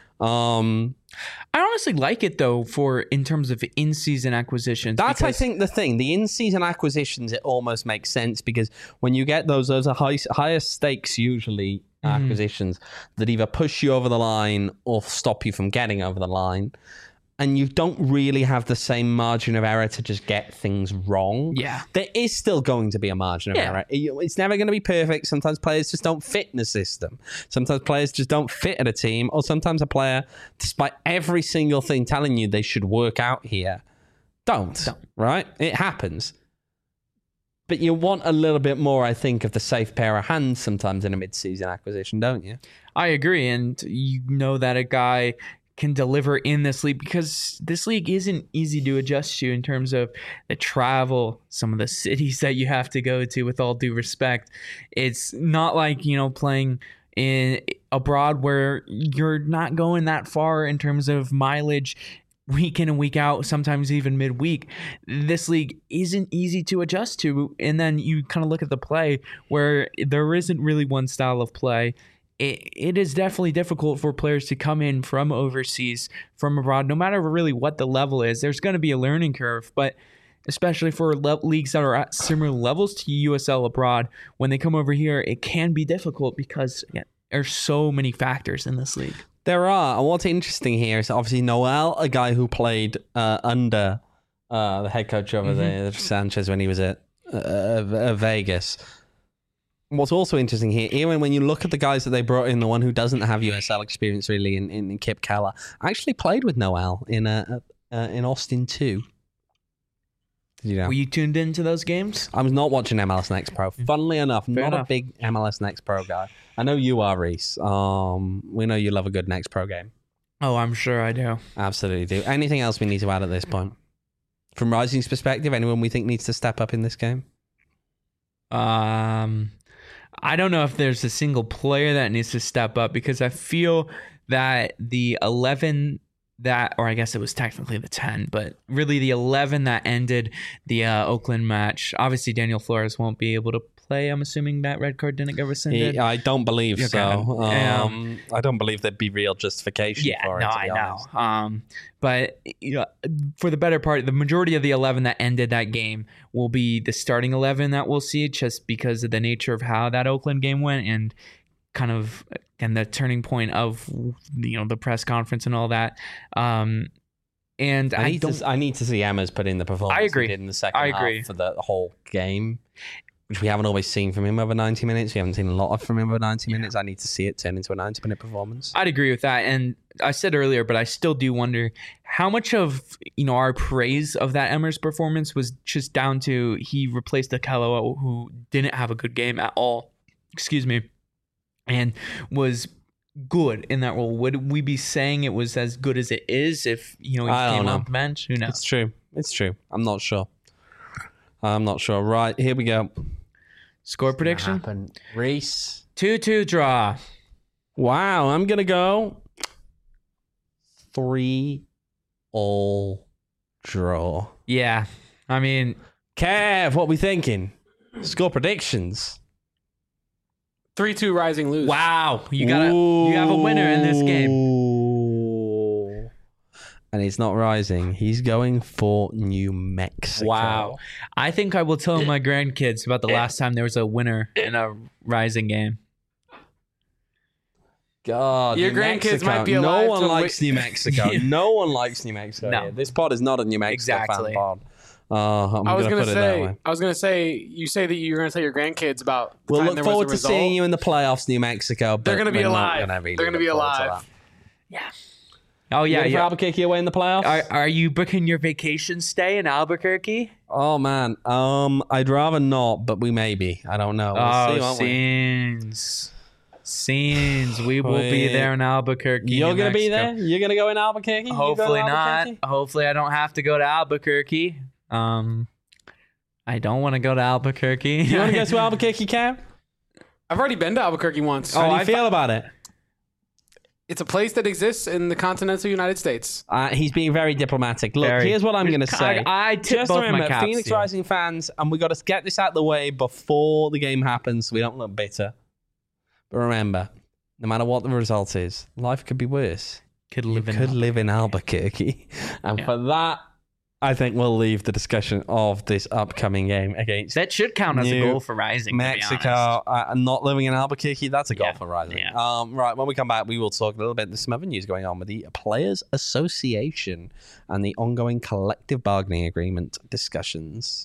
B: I honestly like it though in terms of in-season acquisitions.
A: That's, I
B: because-
A: think, the thing. The in-season acquisitions, it almost makes sense because when you get those are higher stakes usually acquisitions that either push you over the line or stop you from getting over the line. And you don't really have the same margin of error to just get things wrong.
B: Yeah.
A: There is still going to be a margin of error. It's never going to be perfect. Sometimes players just don't fit in the system. Sometimes players just don't fit at a team. Or sometimes a player, despite every single thing telling you they should work out here, don't. Right? It happens. But you want a little bit more, I think, of the safe pair of hands sometimes in a mid-season acquisition, don't you?
B: I agree. And you know that a guy can deliver in this league because this league isn't easy to adjust to in terms of the travel, some of the cities that you have to go to, with all due respect. It's not like, playing in abroad where you're not going that far in terms of mileage week in and week out, sometimes even midweek. This league isn't easy to adjust to. And then you kind of look at the play where there isn't really one style of play. It is definitely difficult for players to come in from overseas, from abroad, no matter really what the level is. There's going to be a learning curve, but especially for leagues that are at similar levels to USL abroad, when they come over here, it can be difficult because there's so many factors in this league.
A: There are. And what's interesting here is obviously Noel, a guy who played under the head coach over there, Sanchez, when he was at Vegas. what's also interesting here, even when you look at the guys that they brought in, the one who doesn't have USL experience really in Kip Keller, actually played with Noel in Austin too. Did you know?
B: Were you tuned into those games?
A: I was not watching MLS Next Pro. Funnily enough, not a big MLS Next Pro guy. I know you are, Reese. We know you love a good Next Pro game.
B: Oh, I'm sure I do.
A: Absolutely do. Anything else we need to add at this point? From Rising's perspective, anyone we think needs to step up in this game?
B: I don't know if there's a single player that needs to step up, because I feel that the 11 that, or I guess it was technically the 10, but really the 11 that ended the Oakland match. Obviously, Daniel Flores won't be able to play. I'm assuming that red card didn't get rescinded.
A: I don't believe so. I don't believe there'd be real justification for it.
B: I know. But for the better part, the majority of the 11 that ended that game will be the starting 11 that we'll see, just because of the nature of how that Oakland game went and the turning point of the press conference and all that. And I need to see Emma's put in the performance
A: he did in the second half for the whole game, which we haven't always seen from him over 90 minutes. We haven't seen a lot from him over 90 minutes. I need to see it turn into a 90-minute performance.
B: I'd agree with that. And I said earlier, but I still do wonder how much of our praise of that Emmers performance was just down to he replaced Akello, who didn't have a good game at all. Excuse me. And was good in that role. Would we be saying it was as good as it is if he came off the bench? Who knows?
A: It's true. I'm not sure. Right, here we go.
B: Score prediction?
A: Reese.
B: 2-2 draw.
A: Wow, I'm gonna go 3-all draw.
B: Yeah, I mean,
A: Kev, what we thinking? Score predictions.
C: 3-2 Rising lose.
B: Wow, you have a winner in this game.
A: And it's not Rising. He's going for New Mexico.
B: Wow. I think I will tell my grandkids about the last time there was a winner in a Rising game.
A: God,
C: your
A: New
C: grandkids
A: Mexico.
C: might be alive.
A: No one likes New Mexico. No one likes New Mexico.
B: No.
A: Here. This pod is not a New Mexico fan pod. I was
C: gonna say, you say that you're gonna tell your grandkids about.
A: We'll look forward to seeing you in the playoffs, New Mexico. But
C: they're gonna be alive.
A: They're gonna be alive.
B: Yeah. Oh yeah,
A: for Albuquerque away in the playoffs.
B: Are you booking your vacation stay in Albuquerque?
A: Oh man, I'd rather not, but we may be. I don't know. We'll see, won't
B: Scenes. We will be there in Albuquerque.
A: You're gonna be there. You're gonna go in Albuquerque.
B: Hopefully not. Hopefully I don't have to go to Albuquerque. I don't want to go to Albuquerque.
A: You want to go to Albuquerque, Cam?
C: I've already been to Albuquerque once.
A: How do you feel about it?
C: It's a place that exists in the continental United States.
A: He's being very diplomatic. Look, here's what I'm going to say.
B: I
A: just remember, Phoenix Rising fans, and we got to get this out of the way before the game happens so we don't look bitter. But remember, no matter what the result is, life could be worse.
B: Could live
A: in Albuquerque. And for that, I think we'll leave the discussion of this upcoming game against
B: that should count as a goal for Rising.
A: Mexico. Not living in Albuquerque, that's a goal for Rising. Yeah. Right, when we come back, we will talk a little bit. There's some other news going on with the Players Association and the ongoing collective bargaining agreement discussions.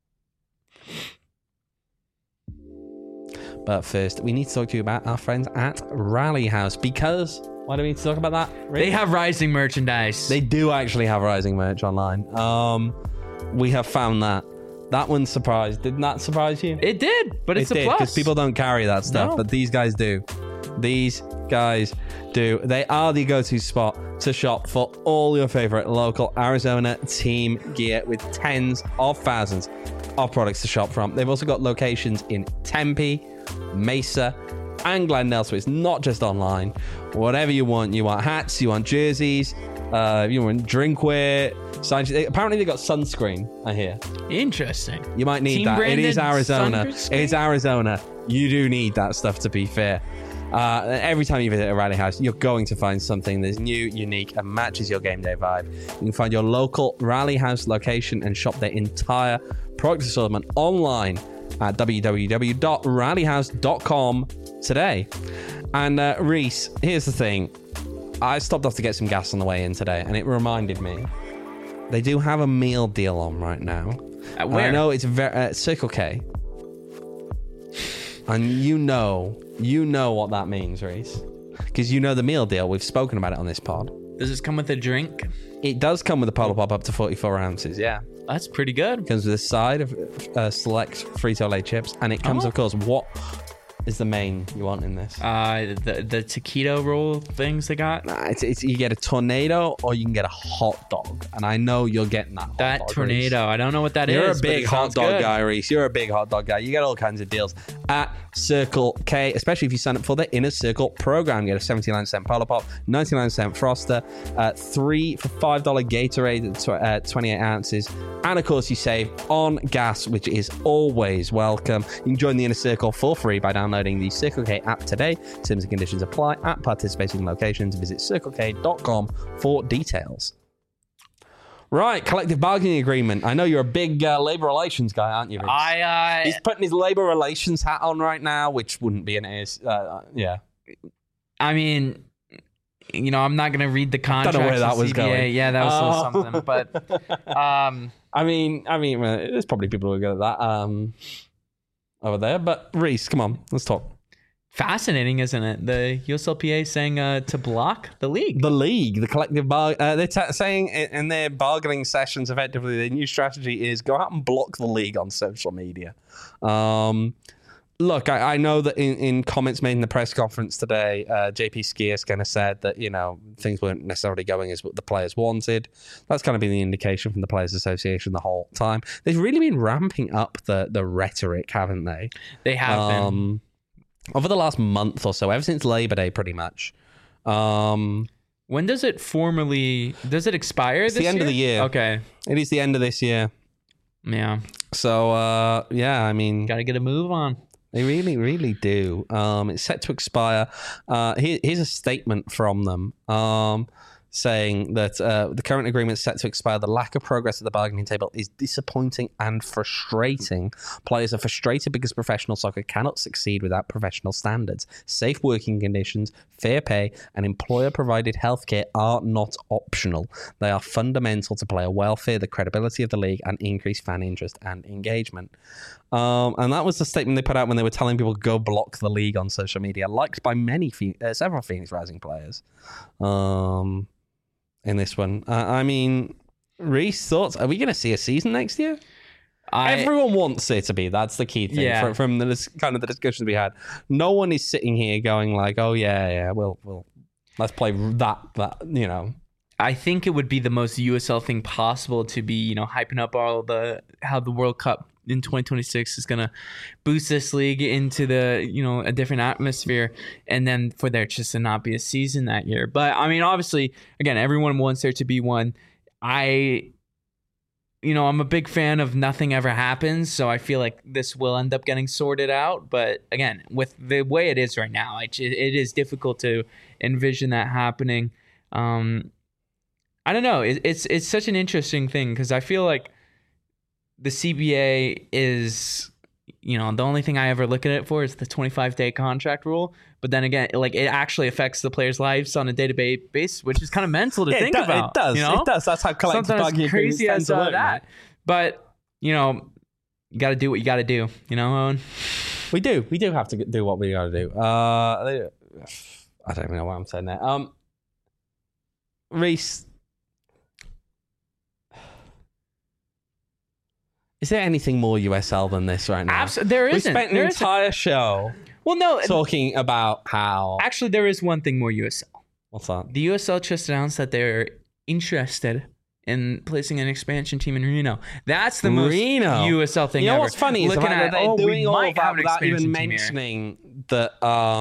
A: But first, we need to talk to you about our friends at Rally House, because why do we need to talk about that?
B: Really? They have Rising merchandise.
A: They do actually have Rising merch online. We have found that. That one surprised. Didn't that surprise you?
B: It did, but it's a plus.
A: Because people don't carry that stuff, but these guys do. These guys do. They are the go-to spot to shop for all your favorite local Arizona team gear, with tens of thousands of products to shop from. They've also got locations in Tempe, Mesa, and Glendale, so it's not just online. Whatever you want hats, you want jerseys, you want drinkware. Apparently they got sunscreen, I hear.
B: Interesting.
A: You might need that. It is Arizona. It's Arizona. You do need that stuff, to be fair. Every time you visit a Rally House, you're going to find something that's new, unique, and matches your game day vibe. You can find your local Rally House location and shop their entire product assortment online at www.rallyhouse.com today. And Reese, here's the thing. I stopped off to get some gas on the way in today, and it reminded me they do have a meal deal on right now.
B: Where?
A: I know it's Circle K. And you know what that means, Reese. Because you know the meal deal. We've spoken about it on this pod.
B: Does this come with a drink?
A: It does come with a Polar Pop up to 44 ounces, yeah.
B: That's pretty good.
A: It comes with a side of select Frito-Lay chips. And it comes, of course, what is the main you want in this?
B: The taquito roll things they got.
A: Nah, it's you get a tornado or you can get a hot dog, and I know you're getting that.
B: That
A: hot dog,
B: tornado,
A: Reese.
B: I don't know what that is.
A: You're a
B: but
A: big
B: it
A: hot
B: sounds
A: dog
B: good.
A: guy, Reese. You're a big hot dog guy. You get all kinds of deals at Circle K, especially if you sign up for the Inner Circle program. You get a 79-cent Polar Pop, 99-cent Froster, 3 for $5 Gatorade at 28 ounces, and of course you save on gas, which is always welcome. You can join the Inner Circle for free by downloading the Circle K app today. Terms and conditions apply at participating locations. Visit circlek.com for details. Right, collective bargaining agreement. I know you're a big labor relations guy, aren't you, Reese? He's putting his labor relations hat on right now, which wouldn't be an yeah.
B: I mean, I'm not gonna read the contract.
A: Don't know where that was going.
B: Yeah, that was a little something. But
A: I mean, there's probably people who are good at that over there. But Reese, come on, let's talk.
B: fascinating, isn't it? The USLPA saying to block the league.
A: The collective they're saying in their bargaining sessions, effectively, their new strategy is go out and block the league on social media. Look, I know that in comments made in the press conference today, JP Skiers kind of said that, things weren't necessarily going as what the players wanted. That's kind of been the indication from the Players Association the whole time. They've really been ramping up the rhetoric, haven't they?
B: They have been.
A: Over the last month or so, ever since Labor Day, pretty much.
B: When does it expire this year?
A: It's the end of the year.
B: Okay.
A: It is the end of this year.
B: Yeah.
A: So, I mean...
B: Got to get a move on.
A: They really, really do. It's set to expire. Here's a statement from them saying that the current agreement is set to expire. The lack of progress at the bargaining table is disappointing and frustrating. Players are frustrated because professional soccer cannot succeed without professional standards. Safe working conditions, fair pay, and employer-provided healthcare are not optional. They are fundamental to player welfare, the credibility of the league, and increased fan interest and engagement. And that was the statement they put out when they were telling people to go block the league on social media, liked by several Phoenix Rising players. In this one, I mean, Reese, thoughts? Are we going to see a season next year? Everyone wants it to be. That's the key thing from the kind of the discussions we had. No one is sitting here going like, "Oh yeah, we'll let's play that."
B: I think it would be the most USL thing possible to be, hyping up how the World Cup in 2026 is going to boost this league into a different atmosphere, and then for there just to not be a season that year. But I mean, obviously, again, everyone wants there to be one. I'm a big fan of nothing ever happens, so I feel like this will end up getting sorted out. But again, with the way it is right now, it is difficult to envision that happening. I don't know. It's such an interesting thing because I feel like the CBA is, the only thing I ever look at it for is the 25-day contract rule. But then again, it actually affects the players' lives on a day-to-day basis, which is kind of mental to think about.
A: It does. It does. That's how collective bargaining agreements tend to work.
B: That. But, you got to do what you got to do. Owen?
A: We do. We do have to do what we got to do. I don't even know what I'm saying there. Reese, is there anything more USL than this right now?
B: There isn't.
A: We spent an entire show talking about how...
B: Actually, there is one thing more USL.
A: What's that?
B: The USL just announced that they're interested in placing an expansion team in Reno. That's the most USL thing ever.
A: What's funny is that they're doing all of that without even mentioning that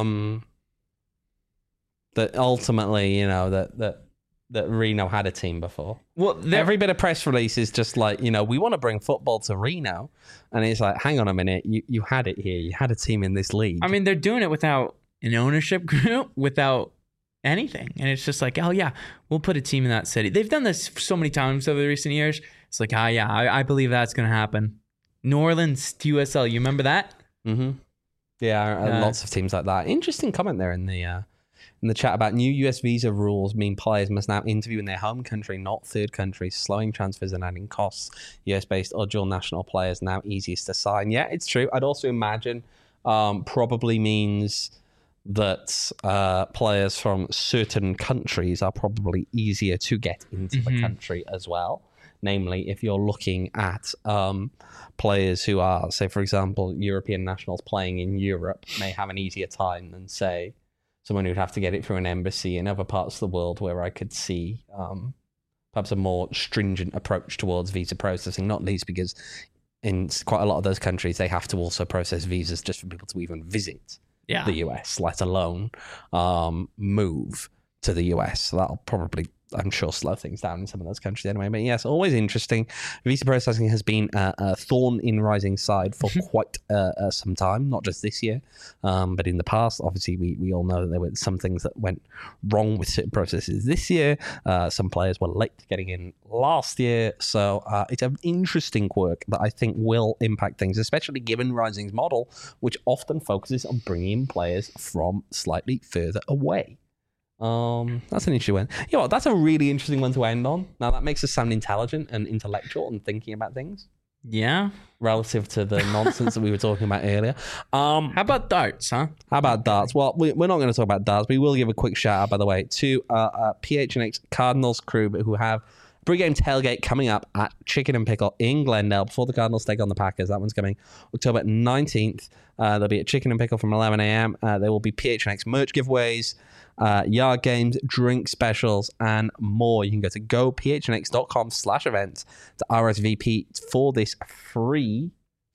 A: that ultimately, that Reno had a team before.
B: Well,
A: every bit of press release is just like, we want to bring football to Reno. And it's like, hang on a minute, you had it here. You had a team in this league.
B: I mean, they're doing it without an ownership group, without anything. And it's just like, oh yeah, we'll put a team in that city. They've done this so many times over the recent years. It's like, I believe that's going to happen. New Orleans to USL, you remember that?
A: Mm-hmm. Yeah, lots of teams like that. Interesting comment there in the chat about new US visa rules mean players must now interview in their home country, not third countries, slowing transfers and adding costs. US-based or dual national players now easiest to sign. Yeah, it's true. I'd also imagine probably means that players from certain countries are probably easier to get into the country as well. Namely, if you're looking at players who are, say, for example, European nationals playing in Europe may have an easier time than, say, someone who'd have to get it through an embassy in other parts of the world, where I could see perhaps a more stringent approach towards visa processing, not least because in quite a lot of those countries, they have to also process visas just for people to even visit the US, let alone move to the US. So that'll probably, I'm sure, slow things down in some of those countries anyway. But yes, always interesting. Visa processing has been a thorn in Rising's side for quite some time, not just this year, but in the past. Obviously, we all know that there were some things that went wrong with certain processes this year. Some players were late getting in last year. So it's an interesting quirk that I think will impact things, especially given Rising's model, which often focuses on bringing in players from slightly further away. That's an interesting one. You know what, that's a really interesting one to end on. Now that makes us sound intelligent and intellectual and thinking about things.
B: Yeah.
A: Relative to the nonsense that we were talking about earlier.
B: How about darts, huh?
A: How about darts? Well, we're not going to talk about darts. We will give a quick shout out, by the way, to PHNX Cardinals crew who have pre-game tailgate coming up at Chicken and Pickle in Glendale before the Cardinals take on the Packers. That one's coming October 19th. They'll be at Chicken and Pickle from 11 a.m. There will be PHNX merch giveaways, yard games, drink specials, and more. You can go to gophnx.com/events to RSVP for this free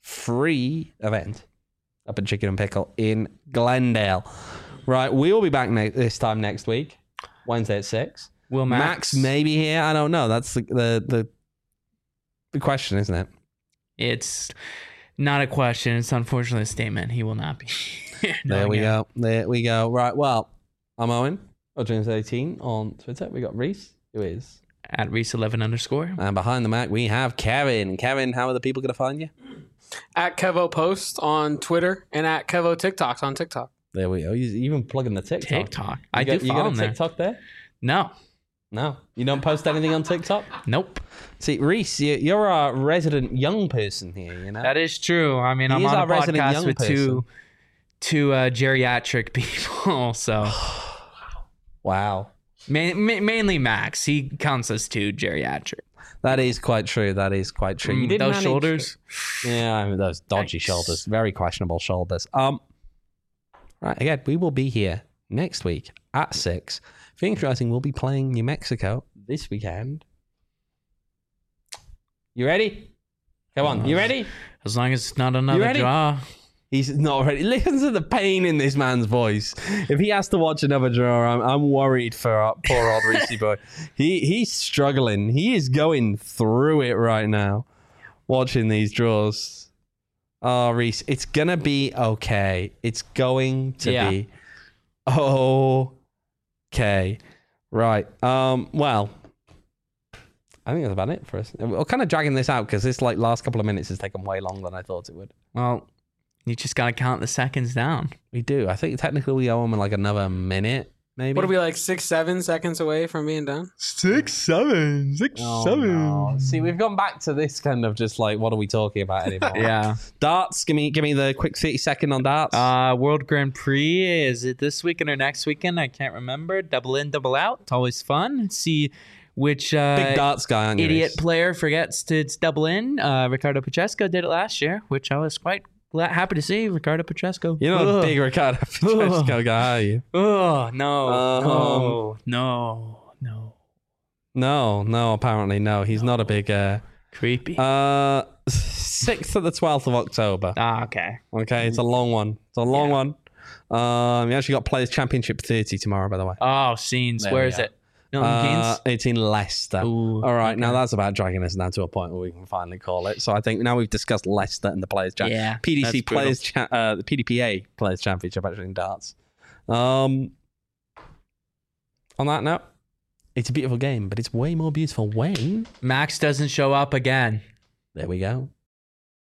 A: event up at Chicken and Pickle in Glendale. Right, we will be back this time next week, Wednesday at 6.
B: Will
A: Max may be here. I don't know. That's the question, isn't it?
B: It's not a question. It's unfortunately a statement. He will not be here.
A: There we go. Right, well, I'm Owen, James18 on Twitter. We got Reese, who is
B: at Reese11_.
A: And behind the mic, we have Kevin. Kevin, how are the people going to find you?
C: At Kevo Post on Twitter and at Kevo TikToks on TikTok.
A: There we go. He's even plugging the TikTok.
B: I do follow
A: you got a
B: there.
A: TikTok there?
B: No.
A: You don't post anything on TikTok?
B: Nope.
A: See, Reese, you're a resident young person here, you know?
B: That is true. I mean, I'm on a podcast with two geriatric people, so...
A: Wow.
B: Mainly Max. He counts us two geriatric.
A: That is quite true. You did
B: those shoulders?
A: Yeah, I mean, those dodgy shoulders. Very questionable shoulders. Right, again, we will be here next week at 6. Phoenix Rising will be playing New Mexico this weekend. You ready? Come on, you ready?
B: As long as it's not another draw.
A: He's not ready. Listen to the pain in this man's voice. If he has to watch another draw, I'm worried for poor old Reese boy. He's struggling. He is going through it right now, watching these draws. Oh, Reese, it's gonna be okay. It's going to be okay. Right. Well, I think that's about it for us. We're kind of dragging this out because this last couple of minutes has taken way longer than I thought it would.
B: Well, you just got to count the seconds down.
A: We do. I think technically we owe him another minute, maybe.
C: What are we, 6-7 seconds away from being done?
B: 6-7. 6-7.
A: No. See, we've gone back to this kind of just what are we talking about anymore?
B: Yeah.
A: Darts. Give me the quick 30-second on darts.
B: World Grand Prix. Is it this weekend or next weekend? I can't remember. Double in, double out. It's always fun. See which
A: big darts guy on
B: idiot player forgets to double in. Ricardo Pacheco did it last year, which I was quite happy to see. Ricardo Pacheco.
A: You're not a big Ricardo Pacheco guy, are you?
B: Oh, no.
A: No, apparently no. He's not a big...
B: Creepy.
A: 6th to the 12th of October.
B: Okay.
A: Okay, it's a long one. One. We actually got Players Championship 30 tomorrow, by the way.
B: Oh, scenes. Where is it?
A: It's in Leicester.
B: Ooh,
A: all right, now that's about dragging us down to a point where we can finally call it. So I think now we've discussed Leicester and the Players Championship. PDC Players the PDPA Players Championship actually in darts. On that note, it's a beautiful game, but it's way more beautiful when
B: Max doesn't show up again.
A: There we go.